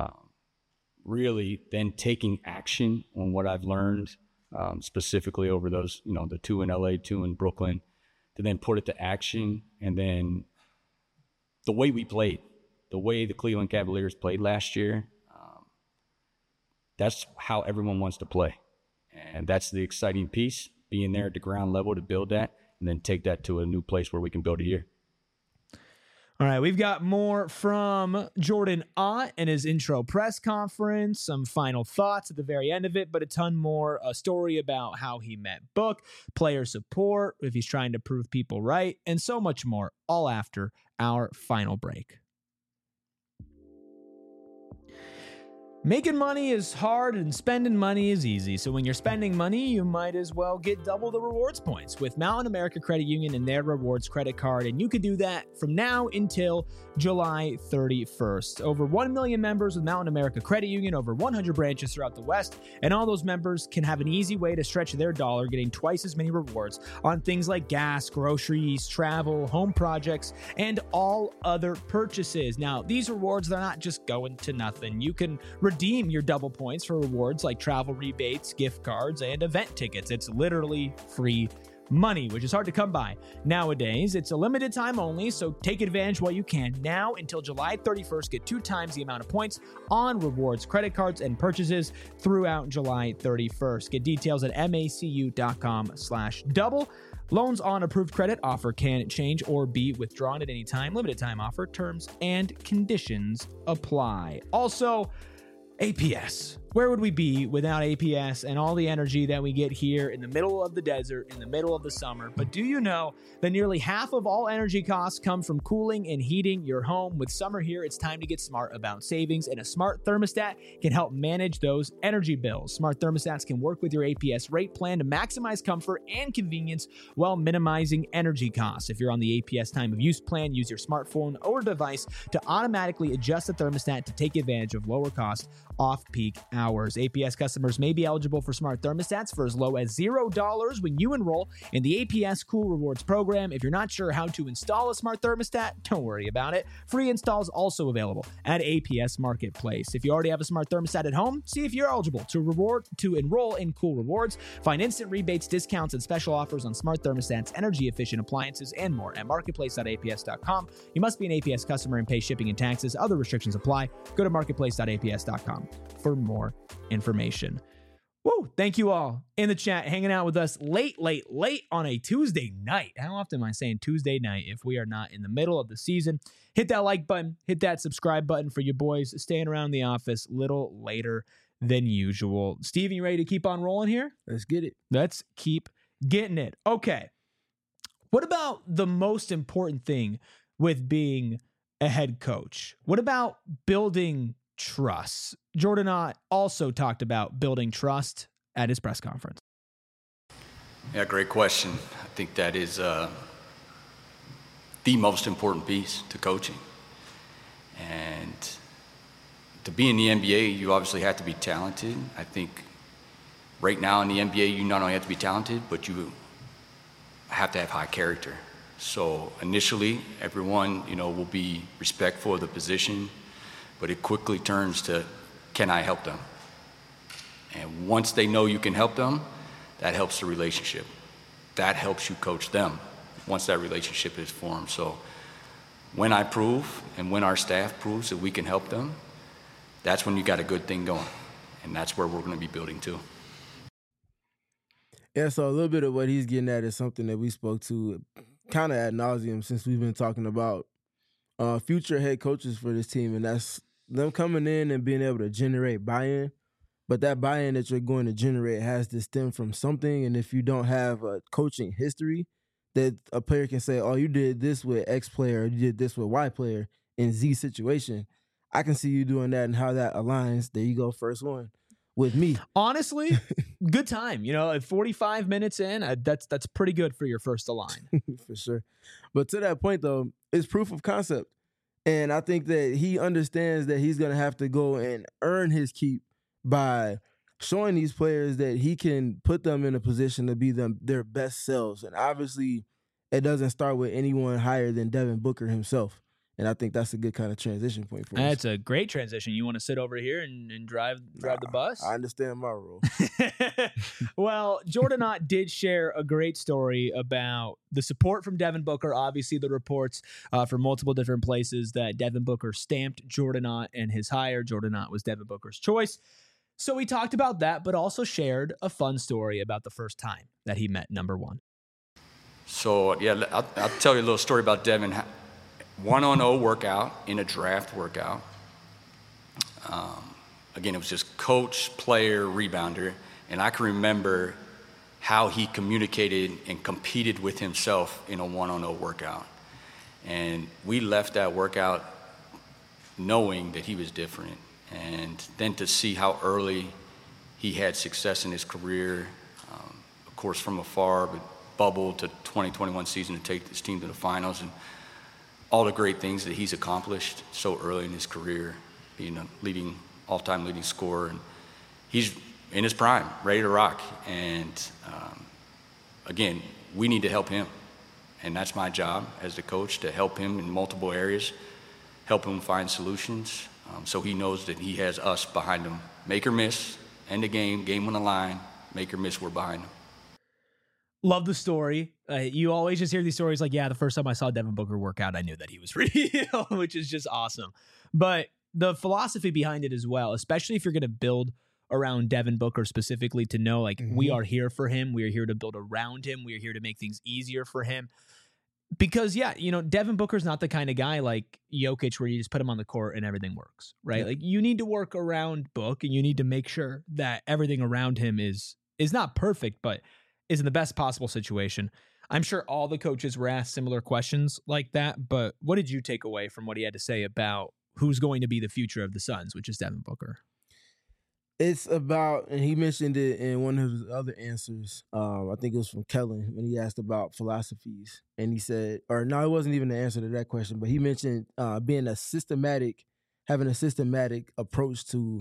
really then taking action on what I've learned, specifically over those, the 2 in LA, 2 in Brooklyn, to then put it to action. And then the way we played, the way the Cleveland Cavaliers played last year, that's how everyone wants to play. And that's the exciting piece, being there at the ground level to build that and then take that to a new place where we can build a year. All right, we've got more from Jordan Ott and his intro press conference, some final thoughts at the very end of it, but a ton more, a story about how he met Book, player support, if he's trying to prove people right, and so much more, all after our final break. Making money is hard and spending money is easy. So when you're spending money, you might as well get double the rewards points with Mountain America Credit Union and their rewards credit card. And you can do that from now until July 31st. Over 1 million members with Mountain America Credit Union, over 100 branches throughout the West. And all those members can have an easy way to stretch their dollar, getting twice as many rewards on things like gas, groceries, travel, home projects, and all other purchases. Now, these rewards, they're not just going to nothing. You can redeem your double points for rewards like travel rebates, gift cards, and event tickets. It's literally free money, which is hard to come by nowadays. It's a limited time only, so take advantage while you can. Now until July 31st, get 2 times the amount of points on rewards, credit cards, and purchases throughout July 31st. Get details at macu.com/double. Loans on approved credit offer can change or be withdrawn at any time. Limited time offer. Terms and conditions apply. Also, APS. Where would we be without APS and all the energy that we get here in the middle of the desert, in the middle of the summer? But do you know that nearly half of all energy costs come from cooling and heating your home? With summer here, it's time to get smart about savings, and a smart thermostat can help manage those energy bills. Smart thermostats can work with your APS rate plan to maximize comfort and convenience while minimizing energy costs. If you're on the APS time of use plan, use your smartphone or device to automatically adjust the thermostat to take advantage of lower cost off-peak hours. APS customers may be eligible for smart thermostats for as low as $0 when you enroll in the APS Cool Rewards program. If you're not sure how to install a smart thermostat, don't worry about it. Free installs also available at APS Marketplace. If you already have a smart thermostat at home, see if you're eligible to enroll in Cool Rewards. Find instant rebates, discounts, and special offers on smart thermostats, energy-efficient appliances, and more at marketplace.aps.com. You must be an APS customer and pay shipping and taxes. Other restrictions apply. Go to marketplace.aps.com for more information. Woo! Thank you all in the chat hanging out with us late on a Tuesday night. How often am I saying Tuesday night if we are not in the middle of the season? Hit that like button. Hit that subscribe button for you boys staying around the office a little later than usual. Steven, you ready to keep on rolling here? Let's get it. Let's keep getting it. Okay. What about the most important thing with being a head coach? What about building trust? Jordan Ott also talked about building trust at his press conference. Yeah, great question. I think that is the most important piece to coaching. And to be in the NBA, you obviously have to be talented. I think right now in the NBA, you not only have to be talented, but you have to have high character. So initially, everyone, will be respectful of the position, but it quickly turns to, can I help them? And once they know you can help them, that helps the relationship. That helps you coach them once that relationship is formed. So when I prove and when our staff proves that we can help them, that's when you got a good thing going. And that's where we're going to be building to. Yeah, so a little bit of what he's getting at is something that we spoke to kind of ad nauseum since we've been talking about future head coaches for this team, and that's them coming in and being able to generate buy-in. But that buy-in that you're going to generate has to stem from something, and if you don't have a coaching history that a player can say, oh, you did this with X player, or you did this with Y player in Z situation, I can see you doing that and how that aligns. There you go, first one. With me. Honestly, good time. At 45 minutes in, that's pretty good for your first align. For sure. But to that point, though, it's proof of concept. And I think that he understands that he's going to have to go and earn his keep by showing these players that he can put them in a position to be their best selves. And obviously, it doesn't start with anyone higher than Devin Booker himself. And I think that's a good kind of transition point for us. That's a great transition. You want to sit over here and drive the bus? I understand my role. Well, Jordan Ott did share a great story about the support from Devin Booker. Obviously, the reports from multiple different places that Devin Booker stamped Jordan Ott and his hire. Jordan Ott was Devin Booker's choice. So we talked about that, but also shared a fun story about the first time that he met number one. So, yeah, I'll tell you a little story about Devin. 1-on-0 workout in a draft workout. Again, it was just coach, player, rebounder. And I can remember how he communicated and competed with himself in a 1-on-0 workout. And we left that workout knowing that he was different. And then to see how early he had success in his career, of course from afar, but bubble to 2021 season to take this team to the finals, and all the great things that he's accomplished so early in his career, being a all-time leading scorer. And he's in his prime, ready to rock. And again, we need to help him. And that's my job as the coach, to help him in multiple areas, help him find solutions, so he knows that he has us behind him. Make or miss, end the game on the line, make or miss, we're behind him. Love the story. You always just hear these stories like, yeah, the first time I saw Devin Booker work out, I knew that he was real, which is just awesome. But the philosophy behind it as well, especially if you're going to build around Devin Booker specifically, to know like we are here for him. We are here to build around him. We are here to make things easier for him. Because, yeah, Devin Booker's not the kind of guy like Jokic where you just put him on the court and everything works, right? Yeah. Like you need to work around Book, and you need to make sure that everything around him is not perfect, but is in the best possible situation. I'm sure all the coaches were asked similar questions like that, but what did you take away from what he had to say about who's going to be the future of the Suns, which is Devin Booker? It's about, and he mentioned it in one of his other answers, I think it was from Kellen, when he asked about philosophies. And he said, or no, it wasn't even the answer to that question, but he mentioned having a systematic approach to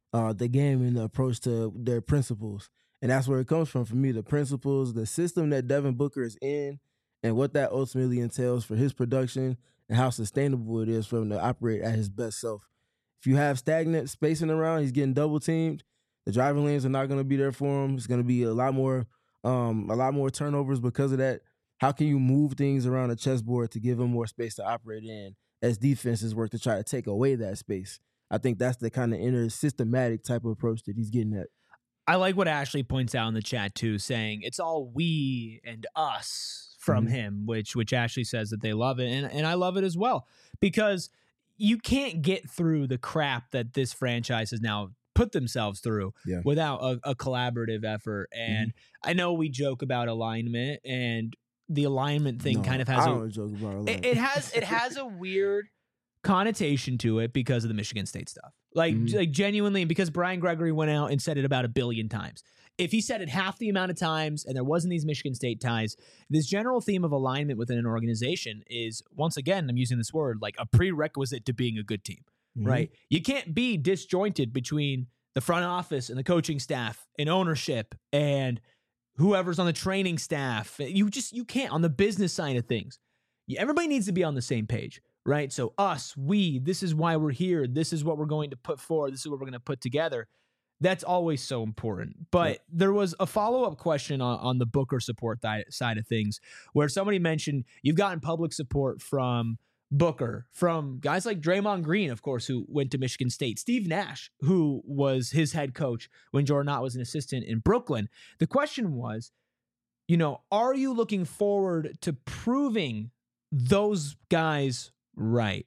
the game and the approach to their principles. And that's where it comes from for me, the principles, the system that Devin Booker is in, and what that ultimately entails for his production and how sustainable it is for him to operate at his best self. If you have stagnant spacing around, he's getting double teamed. The driving lanes are not going to be there for him. It's going to be a lot more turnovers because of that. How can you move things around the chessboard to give him more space to operate in as defenses work to try to take away that space? I think that's the kind of inner systematic type of approach that he's getting at. I like what Ashley points out in the chat too, saying it's all we and us from him, which Ashley says that they love it. And I love it as well, because you can't get through the crap that this franchise has now put themselves through without a collaborative effort. And I know we joke about alignment, and the alignment thing kind of has it has a weird connotation to it because of the Michigan State stuff. Like genuinely, because Brian Gregory went out and said it about 1 billion times. If he said it half the amount of times and there wasn't these Michigan State ties, this general theme of alignment within an organization is, once again, I'm using this word, like a prerequisite to being a good team, right? You can't be disjointed between the front office and the coaching staff and ownership and whoever's on the training staff. You can't on the business side of things. Everybody needs to be on the same page, right? So this is why we're here. This is what we're going to put forward. This is what we're going to put together. That's always so important. But there was a follow-up question on the Booker support side of things, where somebody mentioned you've gotten public support from Booker, from guys like Draymond Green, of course, who went to Michigan State, Steve Nash, who was his head coach when Jordan Knott was an assistant in Brooklyn. The question was, are you looking forward to proving those guys right?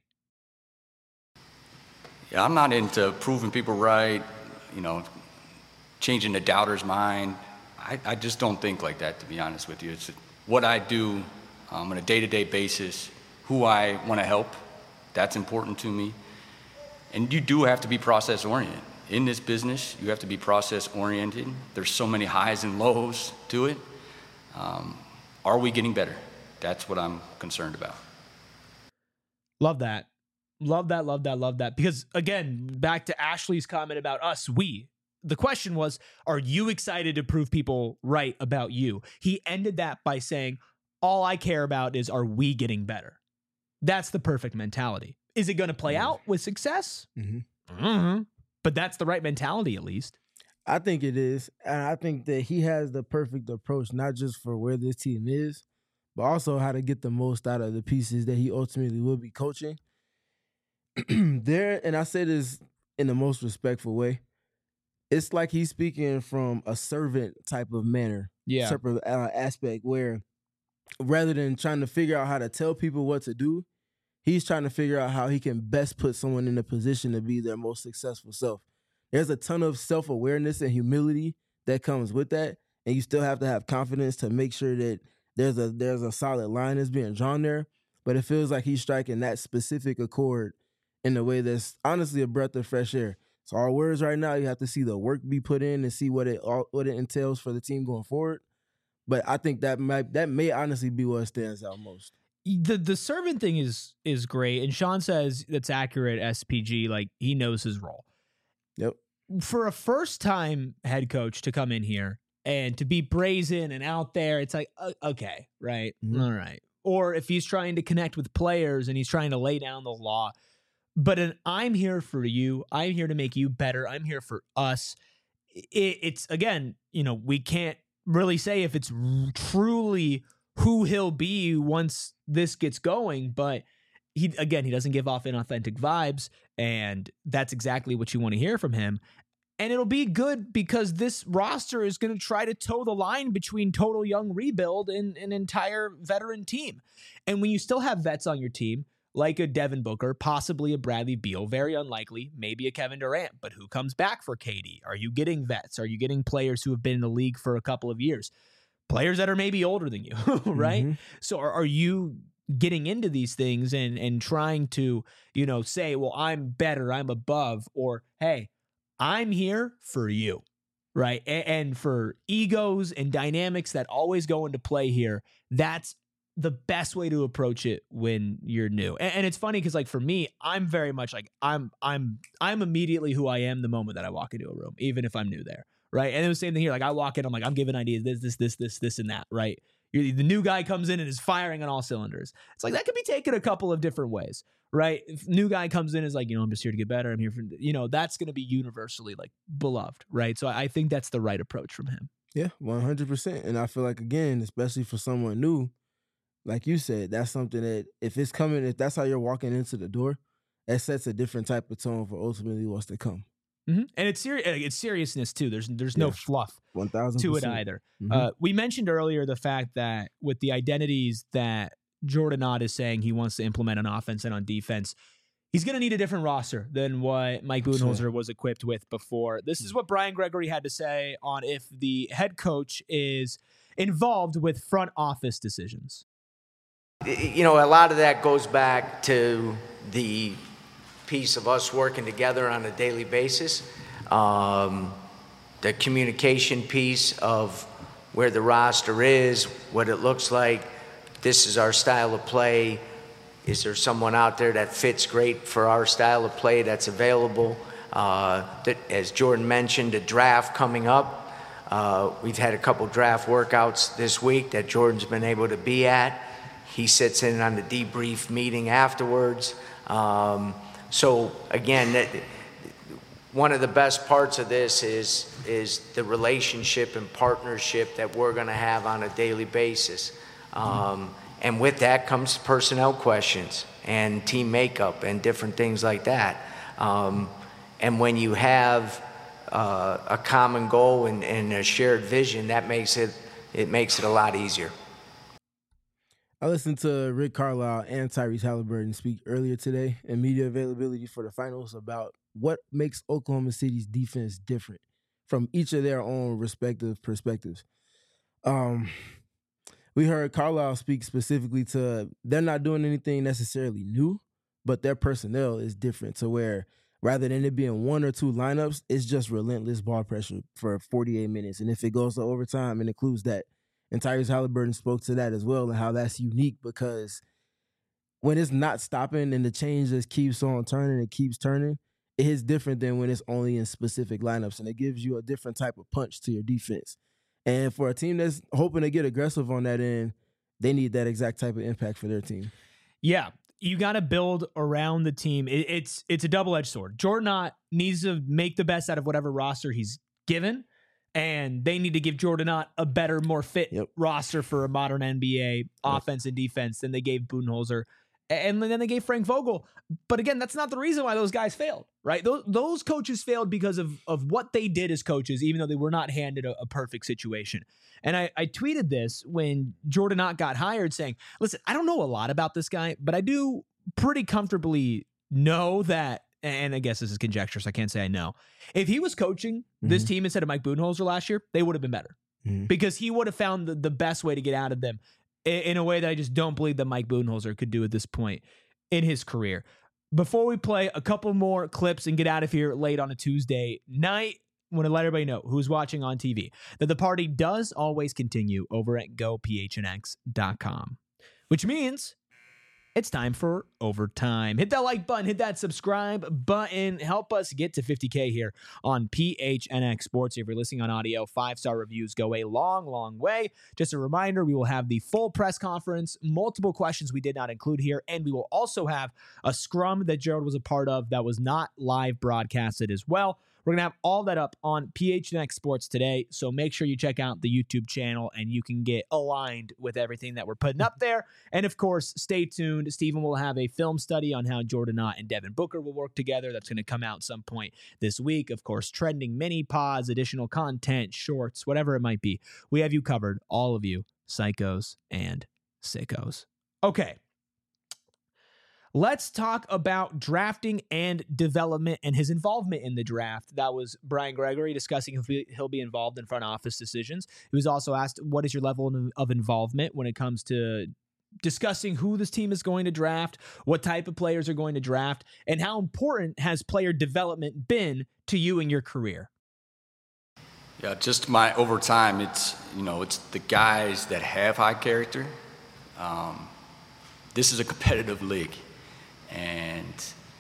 Yeah, I'm not into proving people right, changing the doubter's mind. I just don't think like that, to be honest with you. It's what I do on a day-to-day basis, who I want to help. That's important to me. And you do have to be process-oriented. In this business, you have to be process-oriented. There's so many highs and lows to it. Are we getting better? That's what I'm concerned about. Love that. Love that, love that, love that. Because, again, back to Ashley's comment about us, the question was, are you excited to prove people right about you? He ended that by saying, all I care about is, are we getting better? That's the perfect mentality. Is it going to play out with success? But that's the right mentality, at least. I think it is. And I think that he has the perfect approach, not just for where this team is, but also how to get the most out of the pieces that he ultimately will be coaching. And I say this in the most respectful way, it's like he's speaking from a servant type of manner, type of aspect, where rather than trying to figure out how to tell people what to do, he's trying to figure out how he can best put someone in a position to be their most successful self. There's a ton of self-awareness and humility that comes with that, and you still have to have confidence to make sure that there's a solid line that's being drawn there. But it feels like he's striking that specific accord in a way that's honestly a breath of fresh air. So our words right now, you have to see the work be put in and see what it entails for the team going forward. But I think that may honestly be what stands out most. The servant thing is great, and Sean says that's accurate. SPG, like, he knows his role. Yep. For a first-time head coach to come in here and to be brazen and out there, it's like, okay, right, all right. Or if he's trying to connect with players and he's trying to lay down the law. But I'm here for you. I'm here to make you better. I'm here for us. It's, again, we can't really say if it's truly who he'll be once this gets going, but he doesn't give off inauthentic vibes, and that's exactly what you want to hear from him. And it'll be good because this roster is going to try to toe the line between total young rebuild and an entire veteran team. And when you still have vets on your team, like a Devin Booker, possibly a Bradley Beal, very unlikely, maybe a Kevin Durant, but who comes back for KD? Are you getting vets? Are you getting players who have been in the league for a couple of years? Players that are maybe older than you, right? So are you getting into these things and trying to, say, well, I'm better, I'm above, or, hey, I'm here for you, right? And for egos and dynamics that always go into play here, that's the best way to approach it when you're new. And it's funny because, like, for me, I'm very much like I'm immediately who I am the moment that I walk into a room, even if I'm new there, right? And it was the same thing here. Like, I walk in, I'm like, I'm giving ideas, this, and that, right? The new guy comes in and is firing on all cylinders. It's like that could be taken a couple of different ways, right? If new guy comes in is like, I'm just here to get better. I'm here for, that's going to be universally like beloved, right? So I think that's the right approach from him. Yeah, 100%. And I feel like, again, especially for someone new, like you said, that's something that if that's how you're walking into the door, that sets a different type of tone for ultimately what's to come. Mm-hmm. And it's seriousness too. There's no fluff 1,000% to it either. Mm-hmm. We mentioned earlier the fact that with the identities that Jordan Ott is saying he wants to implement on offense and on defense, he's going to need a different roster than what Mike Budenholzer was equipped with before. This is what Brian Gregory had to say on if the head coach is involved with front office decisions. A lot of that goes back to the piece of us working together on a daily basis. The communication piece of where the roster is, what it looks like. This is our style of play. Is there someone out there that fits great for our style of play that's available? That, as Jordan mentioned, a draft coming up. We've had a couple draft workouts this week that Jordan's been able to be at. He sits in on the debrief meeting afterwards. So again, one of the best parts of this is the relationship and partnership that we're going to have on a daily basis. And with that comes personnel questions and team makeup and different things like that. And when you have a common goal and a shared vision, that makes it a lot easier. I listened to Rick Carlisle and Tyrese Halliburton speak earlier today in media availability for the finals about what makes Oklahoma City's defense different from each of their own respective perspectives. We heard Carlisle speak specifically to they're not doing anything necessarily new, but their personnel is different to where rather than it being one or two lineups, it's just relentless ball pressure for 48 minutes. And if it goes to overtime, it includes that. And Tyrese Halliburton spoke to that as well and how that's unique because when it's not stopping and the change just keeps on turning, it keeps turning, it is different than when it's only in specific lineups. And it gives you a different type of punch to your defense. And for a team that's hoping to get aggressive on that end, they need that exact type of impact for their team. Yeah, you got to build around the team. It's a double-edged sword. Jordan Ott needs to make the best out of whatever roster he's given, and they need to give Jordan Ott a better, more fit roster for a modern NBA offense and defense than they gave Budenholzer. And then they gave Frank Vogel. But again, that's not the reason why those guys failed, right? Those coaches failed because of what they did as coaches, even though they were not handed a perfect situation. And I tweeted this when Jordan Ott got hired saying, listen, I don't know a lot about this guy, but I do pretty comfortably know that, and I guess this is conjecture, so I can't say I know. If he was coaching this team instead of Mike Budenholzer last year, they would have been better because he would have found the best way to get out of them in a way that I just don't believe that Mike Budenholzer could do at this point in his career. Before we play a couple more clips and get out of here late on a Tuesday night, I want to let everybody know who's watching on TV that the party does always continue over at gophnx.com, which means it's time for overtime. Hit that like button, hit that subscribe button. Help us get to 50K here on PHNX Sports. If you're listening on audio, 5-star reviews go a long, long way. Just a reminder, we will have the full press conference, multiple questions we did not include here, and we will also have a scrum that Gerald was a part of that was not live broadcasted as well. We're going to have all that up on PHNX Sports today, so make sure you check out the YouTube channel and you can get aligned with everything that we're putting up there. And, of course, stay tuned. Stephen will have a film study on how Jordan Ott and Devin Booker will work together. That's going to come out some point this week. Of course, trending mini pods, additional content, shorts, whatever it might be. We have you covered, all of you psychos and sickos. Okay. Let's talk about drafting and development and his involvement in the draft. That was Brian Gregory discussing if he'll be involved in front office decisions. He was also asked, what is your level of involvement when it comes to discussing who this team is going to draft, what type of players are going to draft, and how important has player development been to you in your career? Yeah, just over time, it's the guys that have high character This is a competitive league, and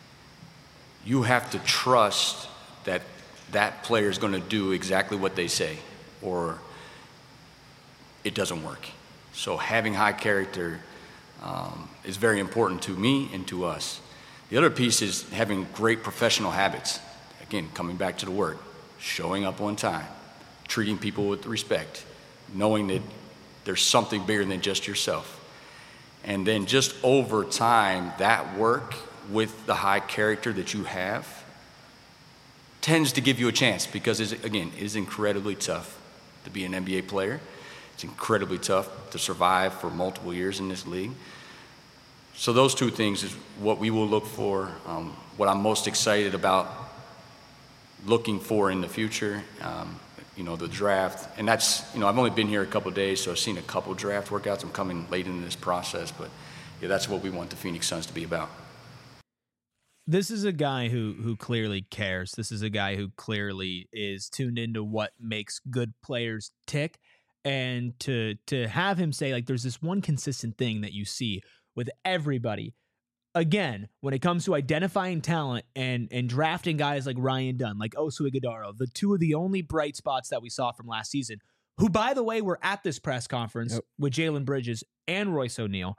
you have to trust that that player is going to do exactly what they say, or it doesn't work. So having high character is very important to me and to us. The other piece is having great professional habits. Again, coming back to the work, showing up on time, treating people with respect, knowing that there's something bigger than just yourself. And then just over time, that work with the high character that you have tends to give you a chance, because, it is incredibly tough to be an NBA player. It's incredibly tough to survive for multiple years in this league. So those two things is what we will look for, what I'm most excited about looking for in the future, the draft. And that's, I've only been here a couple of days, so I've seen a couple draft workouts. I'm coming late into this process, but yeah, that's what we want the Phoenix Suns to be about. This is a guy who clearly cares. This is a guy who clearly is tuned into what makes good players tick. And to have him say, like, there's this one consistent thing that you see with everybody. Again, when it comes to identifying talent and drafting guys like Ryan Dunn, like Oso Ighodaro, the two of the only bright spots that we saw from last season, who, by the way, were at this press conference with Jalen Bridges and Royce O'Neal,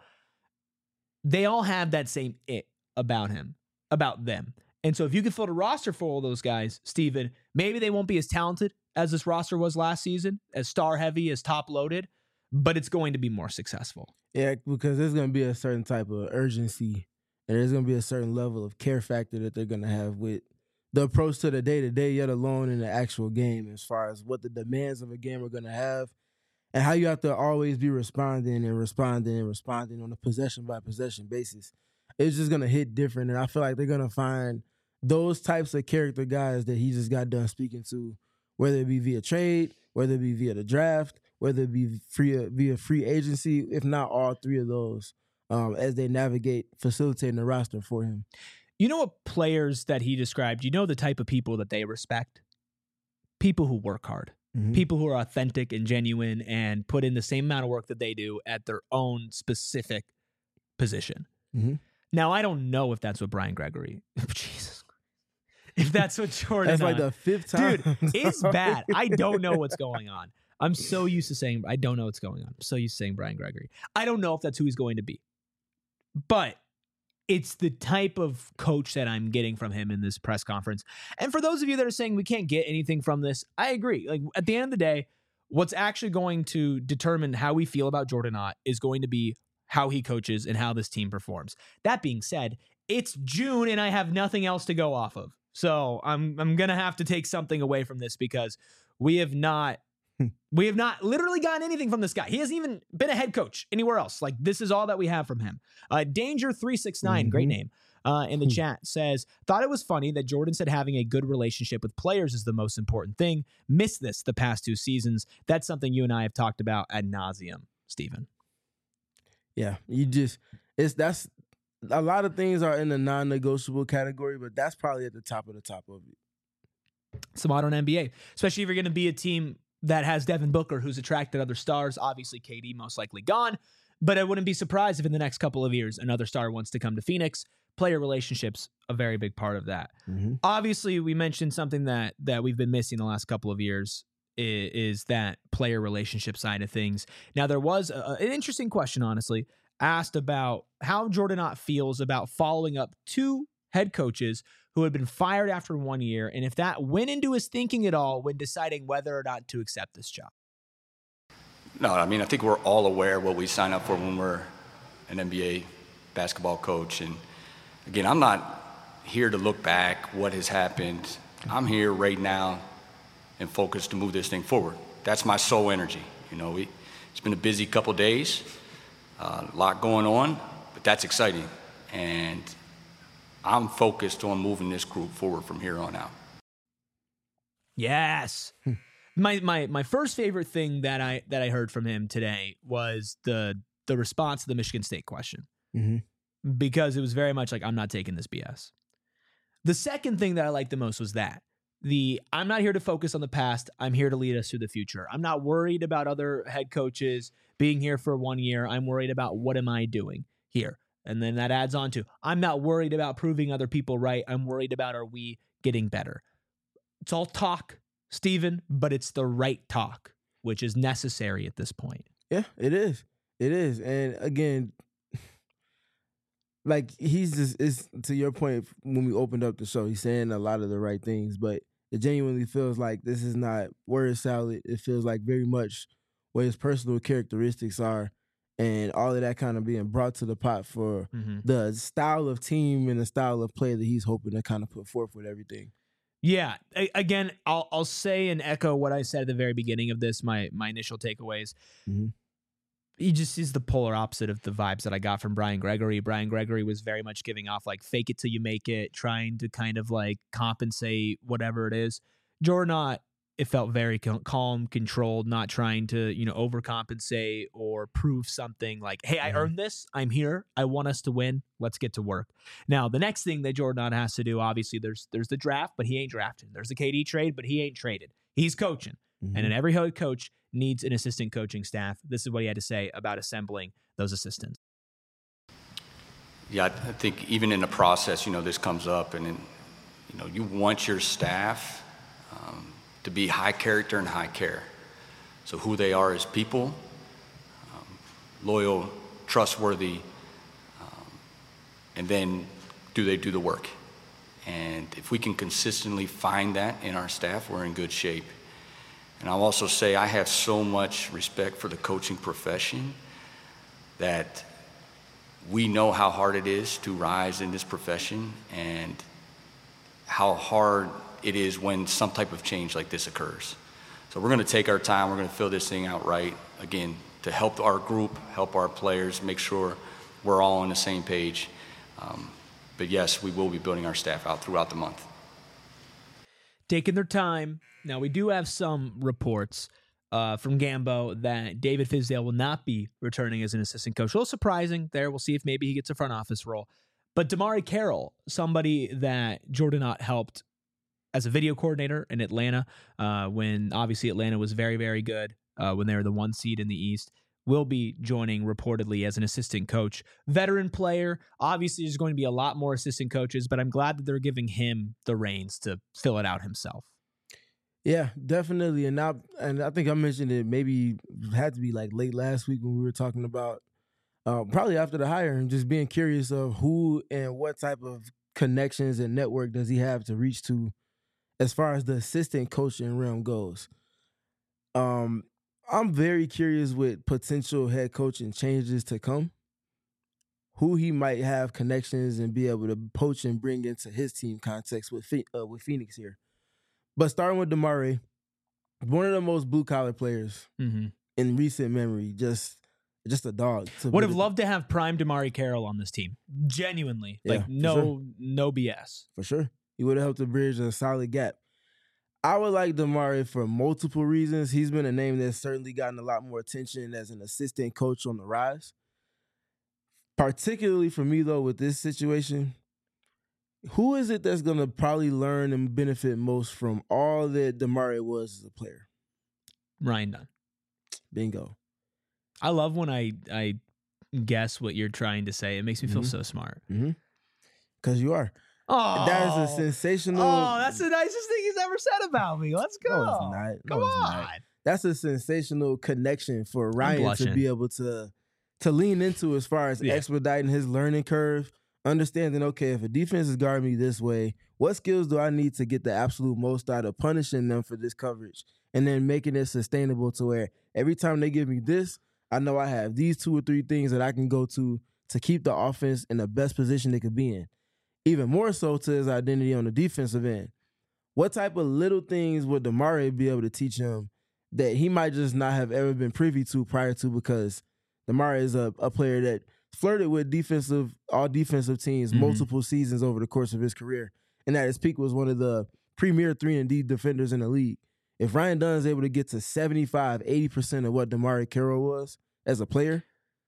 they all have that same it about them. And so if you can fill a roster for all those guys, Steven, maybe they won't be as talented as this roster was last season, as star-heavy, as top-loaded, but it's going to be more successful. Yeah, because there's going to be a certain type of urgency, and there's going to be a certain level of care factor that they're going to have with the approach to the day-to-day, yet alone in the actual game, as far as what the demands of a game are going to have, and how you have to always be responding on a possession-by-possession basis. It's just going to hit different, and I feel like they're going to find those types of character guys that he just got done speaking to, whether it be via trade, whether it be via the draft, whether it be via free agency, if not all three of those, as they navigate facilitating the roster for him. You know what players that he described, you know the type of people that they respect? People who work hard. Mm-hmm. People who are authentic and genuine and put in the same amount of work that they do at their own specific position. Mm-hmm. Now, I don't know if that's what Brian Gregory... Jesus Christ. If that's what Jordan... That's like the fifth time. Dude, it's bad. I don't know what's going on. I'm so used to saying... I don't know what's going on. I'm so used to saying Brian Gregory. I don't know if that's who he's going to be. But it's the type of coach that I'm getting from him in this press conference. And for those of you that are saying we can't get anything from this, I agree. Like, at the end of the day, what's actually going to determine how we feel about Jordan Ott is going to be how he coaches and how this team performs. That being said, it's June and I have nothing else to go off of. So I'm going to have to take something away from this, because we have not literally gotten anything from this guy. He hasn't even been a head coach anywhere else. Like, this is all that we have from him. Danger369, great name, in the chat says, thought it was funny that Jordan said having a good relationship with players is the most important thing. Missed this the past 2 seasons. That's something you and I have talked about ad nauseum, Steven. Yeah, that's a lot of things are in the non-negotiable category, but that's probably at the top of it. It's the modern NBA, especially if you're going to be a team that has Devin Booker, who's attracted other stars. Obviously, KD most likely gone, but I wouldn't be surprised if in the next couple of years another star wants to come to Phoenix. Player relationships, a very big part of that. Mm-hmm. Obviously, we mentioned something that we've been missing the last couple of years is that player relationship side of things. Now, there was an interesting question, honestly, asked about how Jordan Ott feels about following up 2 head coaches who had been fired after 1 year, and if that went into his thinking at all when deciding whether or not to accept this job. No, I mean, I think we're all aware what we sign up for when we're an NBA basketball coach. And again, I'm not here to look back what has happened. I'm here right now and focused to move this thing forward. That's my sole energy. It's been a busy couple days, a lot going on, but that's exciting. And I'm focused on moving this group forward from here on out. Yes. My first favorite thing that I heard from him today was the response to the Michigan State question. Mm-hmm. Because it was very much like, I'm not taking this BS. The second thing that I liked the most was that. I'm not here to focus on the past. I'm here to lead us through the future. I'm not worried about other head coaches being here for 1 year. I'm worried about what am I doing here? And then that adds on to, I'm not worried about proving other people right. I'm worried about, are we getting better? It's all talk, Steven, but it's the right talk, which is necessary at this point. Yeah, it is. It is. And again, like he's just, it's to your point when we opened up the show, he's saying a lot of the right things, but it genuinely feels like this is not word salad. It feels like very much what his personal characteristics are, and all of that kind of being brought to the pot for the style of team and the style of play that he's hoping to kind of put forth with everything. Yeah. Again, I'll say and echo what I said at the very beginning of this, my initial takeaways. He just is the polar opposite of the vibes that I got from Brian Gregory. Brian Gregory was very much giving off like fake it till you make it, trying to kind of like compensate whatever it is. Jordan Ott, it felt very calm, controlled, not trying to, overcompensate or prove something like, hey, I earned this. I'm here. I want us to win. Let's get to work. Now, the next thing that Jordan Ott has to do, obviously, there's the draft, but he ain't drafting. There's the KD trade, but he ain't traded. He's coaching. And in every head coach needs an assistant coaching staff. This is what he had to say about assembling those assistants. Yeah, I think even in the process, this comes up, and you want your staff to be high character and high care. So who they are as people, loyal, trustworthy, and then do they do the work? And if we can consistently find that in our staff, we're in good shape. And I'll also say I have so much respect for the coaching profession that we know how hard it is to rise in this profession and how hard it is when some type of change like this occurs. So we're going to take our time. We're going to fill this thing out right, again, to help our group, help our players, make sure we're all on the same page. But yes, we will be building our staff out throughout the month. Taking their time. Now, we do have some reports from Gambo that David Fizdale will not be returning as an assistant coach. A little surprising there. We'll see if maybe he gets a front office role. But Damari Carroll, somebody that Jordan Ott helped as a video coordinator in Atlanta, when obviously Atlanta was very, very good when they were the 1 seed in the East, will be joining reportedly as an assistant coach. Veteran player. Obviously, there's going to be a lot more assistant coaches, but I'm glad that they're giving him the reins to fill it out himself. Yeah, definitely. And I think I mentioned it, maybe it had to be like late last week when we were talking about probably after the hire, and just being curious of who and what type of connections and network does he have to reach to as far as the assistant coaching realm goes. I'm very curious with potential head coaching changes to come, who he might have connections and be able to poach and bring into his team context with Phoenix here. But starting with Damari, one of the most blue-collar players in recent memory, just a dog. Would have loved to have prime Damari Carroll on this team. Genuinely. Yeah, no BS. For sure. He would have helped to bridge a solid gap. I would like Damari for multiple reasons. He's been a name that's certainly gotten a lot more attention as an assistant coach on the rise. Particularly for me, though, with this situation, who is it that's going to probably learn and benefit most from all that Damari was as a player? Ryan Dunn. Bingo. I love when I guess what you're trying to say. It makes me feel so smart. Because you are. Oh, that is a sensational. Oh, that's the nicest thing he's ever said about me. Let's go. No, it's not. Come on. That's a sensational connection for Ryan to be able to lean into as far as expediting his learning curve, understanding, okay, if a defense is guarding me this way, what skills do I need to get the absolute most out of punishing them for this coverage, and then making it sustainable to where every time they give me this, I know I have these 2 or 3 things that I can go to keep the offense in the best position they could be in. Even more so to his identity on the defensive end. What type of little things would Damari be able to teach him that he might just not have ever been privy to prior to, because Damari is a player that flirted with all defensive teams multiple seasons over the course of his career, and at his peak was one of the premier 3-and-D defenders in the league. If Ryan Dunn is able to get to 75, 80% of what Damari Carroll was as a player,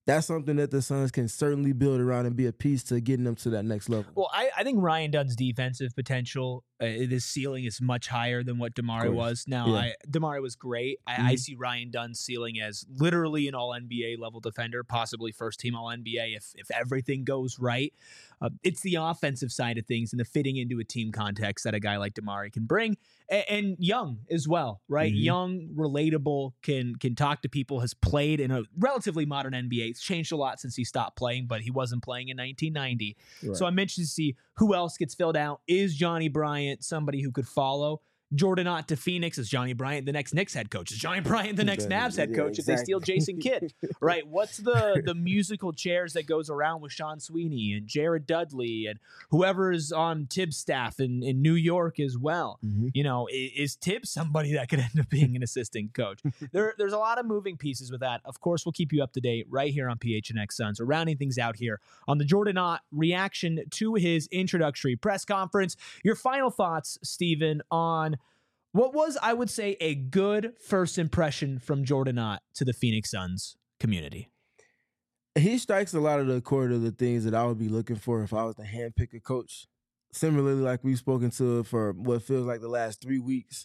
that's something that the Suns can certainly build around and be a piece to getting them to that next level. Well, I think Ryan Dunn's defensive potential, his ceiling is much higher than what Damari was. Now, Damari was great. I see Ryan Dunn's ceiling as literally an all-NBA level defender, possibly first-team all-NBA if everything goes right. It's the offensive side of things and the fitting into a team context that a guy like Damari can bring. And young as well, right? Young, relatable, can talk to people, has played in a relatively modern NBA. It's changed a lot since he stopped playing, but he wasn't playing in 1990. Right. So I'm interested to see who else gets filled out. Is Johnny Bryant somebody who could follow? Jordan Ott to Phoenix. Is Johnny Bryant the next Knicks head coach? Is Johnny Bryant the next Mavs head coach if they steal Jason Kidd? Right? What's the musical chairs that goes around with Sean Sweeney and Jared Dudley and whoever is on Tibbs' staff in New York as well? You know, is Tibbs somebody that could end up being an assistant coach? There's a lot of moving pieces with that. Of course, we'll keep you up to date right here on PHNX Suns. We're rounding things out here on the Jordan Ott reaction to his introductory press conference. Your final thoughts, Steven, on what was, I would say, a good first impression from Jordan Ott to the Phoenix Suns community? He strikes a lot of the core of the things that I would be looking for if I was to handpick a coach. Similarly, like we've spoken to for what feels like the last 3 weeks,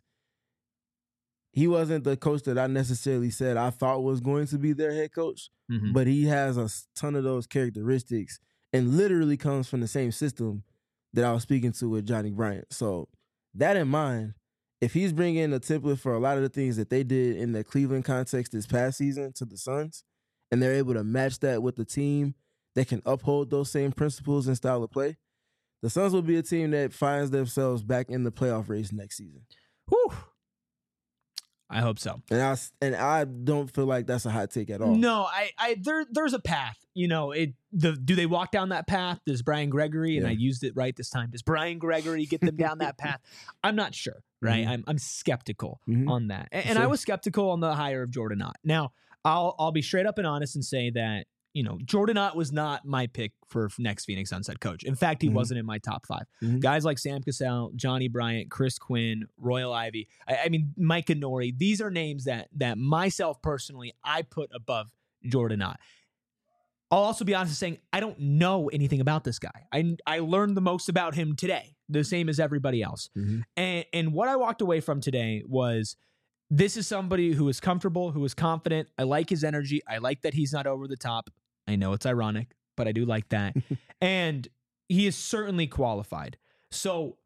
he wasn't the coach that I necessarily said I thought was going to be their head coach, but he has a ton of those characteristics and literally comes from the same system that I was speaking to with Johnny Bryant. So that in mind, if he's bringing a template for a lot of the things that they did in the Cleveland context this past season to the Suns, and they're able to match that with the team that can uphold those same principles and style of play, the Suns will be a team that finds themselves back in the playoff race next season. Whew. I hope so. And I don't feel like that's a hot take at all. No, there's a path. You know, do they walk down that path? Does Brian Gregory, and I used it right this time, does Brian Gregory get them down that path? I'm not sure, right? I'm skeptical on that. And I was skeptical on the hire of Jordan Ott. Now, I'll be straight up and honest and say that, you know, Jordan Ott was not my pick for next Phoenix Suns head coach. In fact, he wasn't in my top 5. Guys like Sam Cassell, Johnny Bryant, Chris Quinn, Royal Ivey, I mean, Mike Nori, these are names that myself personally, I put above Jordan Ott. I'll also be honest in saying I don't know anything about this guy. I learned the most about him today, the same as everybody else. And what I walked away from today was, this is somebody who is comfortable, who is confident. I like his energy. I like that he's not over the top. I know it's ironic, but I do like that. And he is certainly qualified. So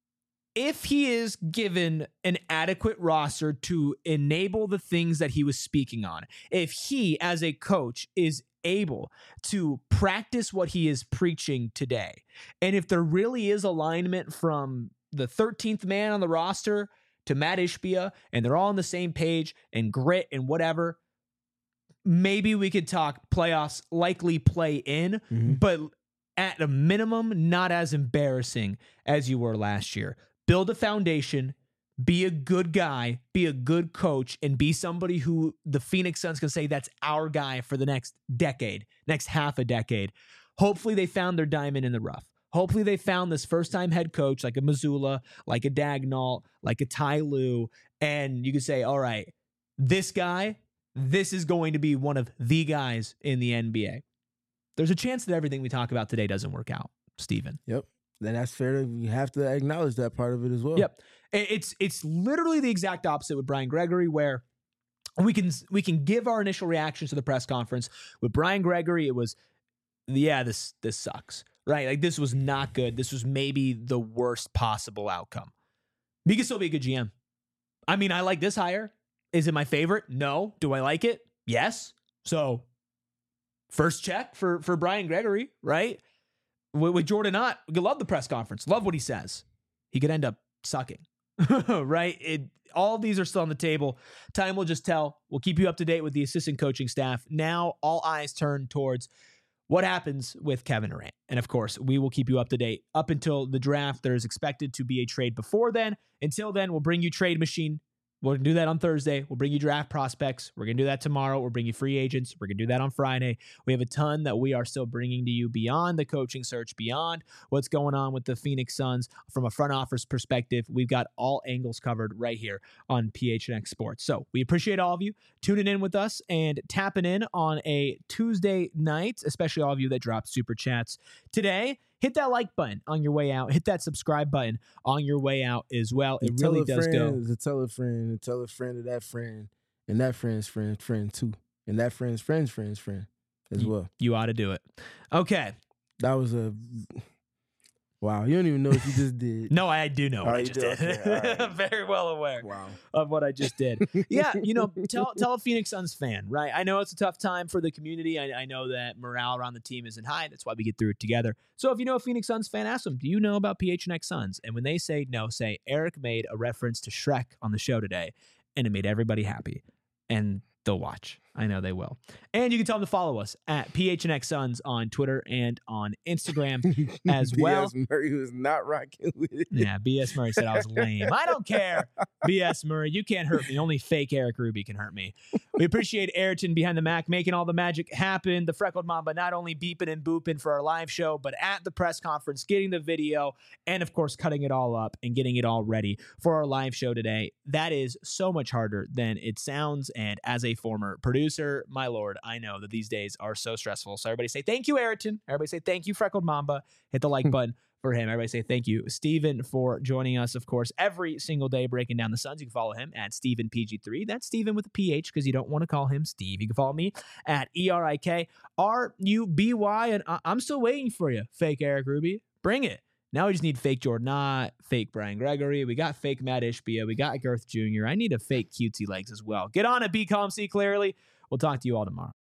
if he is given an adequate roster to enable the things that he was speaking on, if he as a coach is able to practice what he is preaching today, and if there really is alignment from the 13th man on the roster to Matt Ishbia, and they're all on the same page and grit and whatever, maybe we could talk playoffs, likely play in, but at a minimum, not as embarrassing as you were last year. Build a foundation, be a good guy, be a good coach, and be somebody who the Phoenix Suns can say that's our guy for the next decade, next half a decade. Hopefully they found their diamond in the rough. Hopefully they found this first-time head coach like a Mazzulla, like a Dagnall, like a Ty Lue, and you can say, all right, this guy, this is going to be one of the guys in the NBA. There's a chance that everything we talk about today doesn't work out, Steven. Yep. Then that's fair. You have to acknowledge that part of it as well. Yep. It's literally the exact opposite with Brian Gregory, where we can give our initial reactions to the press conference. With Brian Gregory, it was, this sucks. Right? Like, this was not good. This was maybe the worst possible outcome. He could still be a good GM. I mean, I like this hire. Is it my favorite? No. Do I like it? Yes. So, first check for Brian Gregory, right? With Jordan Ott, we love the press conference. Love what he says. He could end up sucking, right? All of these are still on the table. Time will just tell. We'll keep you up to date with the assistant coaching staff. Now, all eyes turn towards what happens with Kevin Durant. And of course, we will keep you up to date up until the draft. There is expected to be a trade before then. Until then, we'll bring you Trade Machine We'll do that on Thursday. We'll bring you draft prospects. We're going to do that tomorrow. We'll bring you free agents. We're going to do that on Friday. We have a ton that we are still bringing to you beyond the coaching search, beyond what's going on with the Phoenix Suns from a front office perspective. We've got all angles covered right here on PHNX Sports. So we appreciate all of you tuning in with us and tapping in on a Tuesday night, especially all of you that dropped super chats today. Hit that like button on your way out. Hit that subscribe button on your way out as well. It really does go. Tell a friend, and tell a friend of that friend, and that friend's friend too, and that friend's friend as well. You ought to do it. Okay. That was a... Wow, you don't even know what you just did. No, I do know what I just did. Okay. I'm very well aware of what I just did. Yeah, tell a Phoenix Suns fan, right? I know it's a tough time for the community. I know that morale around the team isn't high. That's why we get through it together. So if you know a Phoenix Suns fan, ask them, do you know about PHNX Suns? And when they say no, say, Eric made a reference to Shrek on the show today, and it made everybody happy. And they'll watch. I know they will. And you can tell them to follow us at PHNX Suns on Twitter and on Instagram as well. B.S. Murray was not rocking with it. Yeah, B.S. Murray said I was lame. I don't care, B.S. Murray. You can't hurt me. Only fake Eric Ruby can hurt me. We appreciate Ayrton behind the Mac making all the magic happen. The Freckled Mamba not only beeping and booping for our live show, but at the press conference, getting the video, and of course, cutting it all up and getting it all ready for our live show today. That is so much harder than it sounds. And as a former producer, my lord, I know that these days are so stressful. So everybody say thank you, Ayrton. Everybody say thank you, Freckled Mamba. Hit the like button for him. Everybody say thank you, Steven, for joining us, of course, every single day breaking down the Suns. You can follow him at StevenPG3. That's Steven with a PH because you don't want to call him Steve. You can follow me at ERIKRUBY. And I'm still waiting for you, fake Eric Ruby. Bring it. Now we just need fake Jordan Knott, fake Brian Gregory. We got fake Matt Ishbia. We got Girth Jr. I need a fake cutesy legs as well. Get on it, be calm, see clearly. We'll talk to you all tomorrow.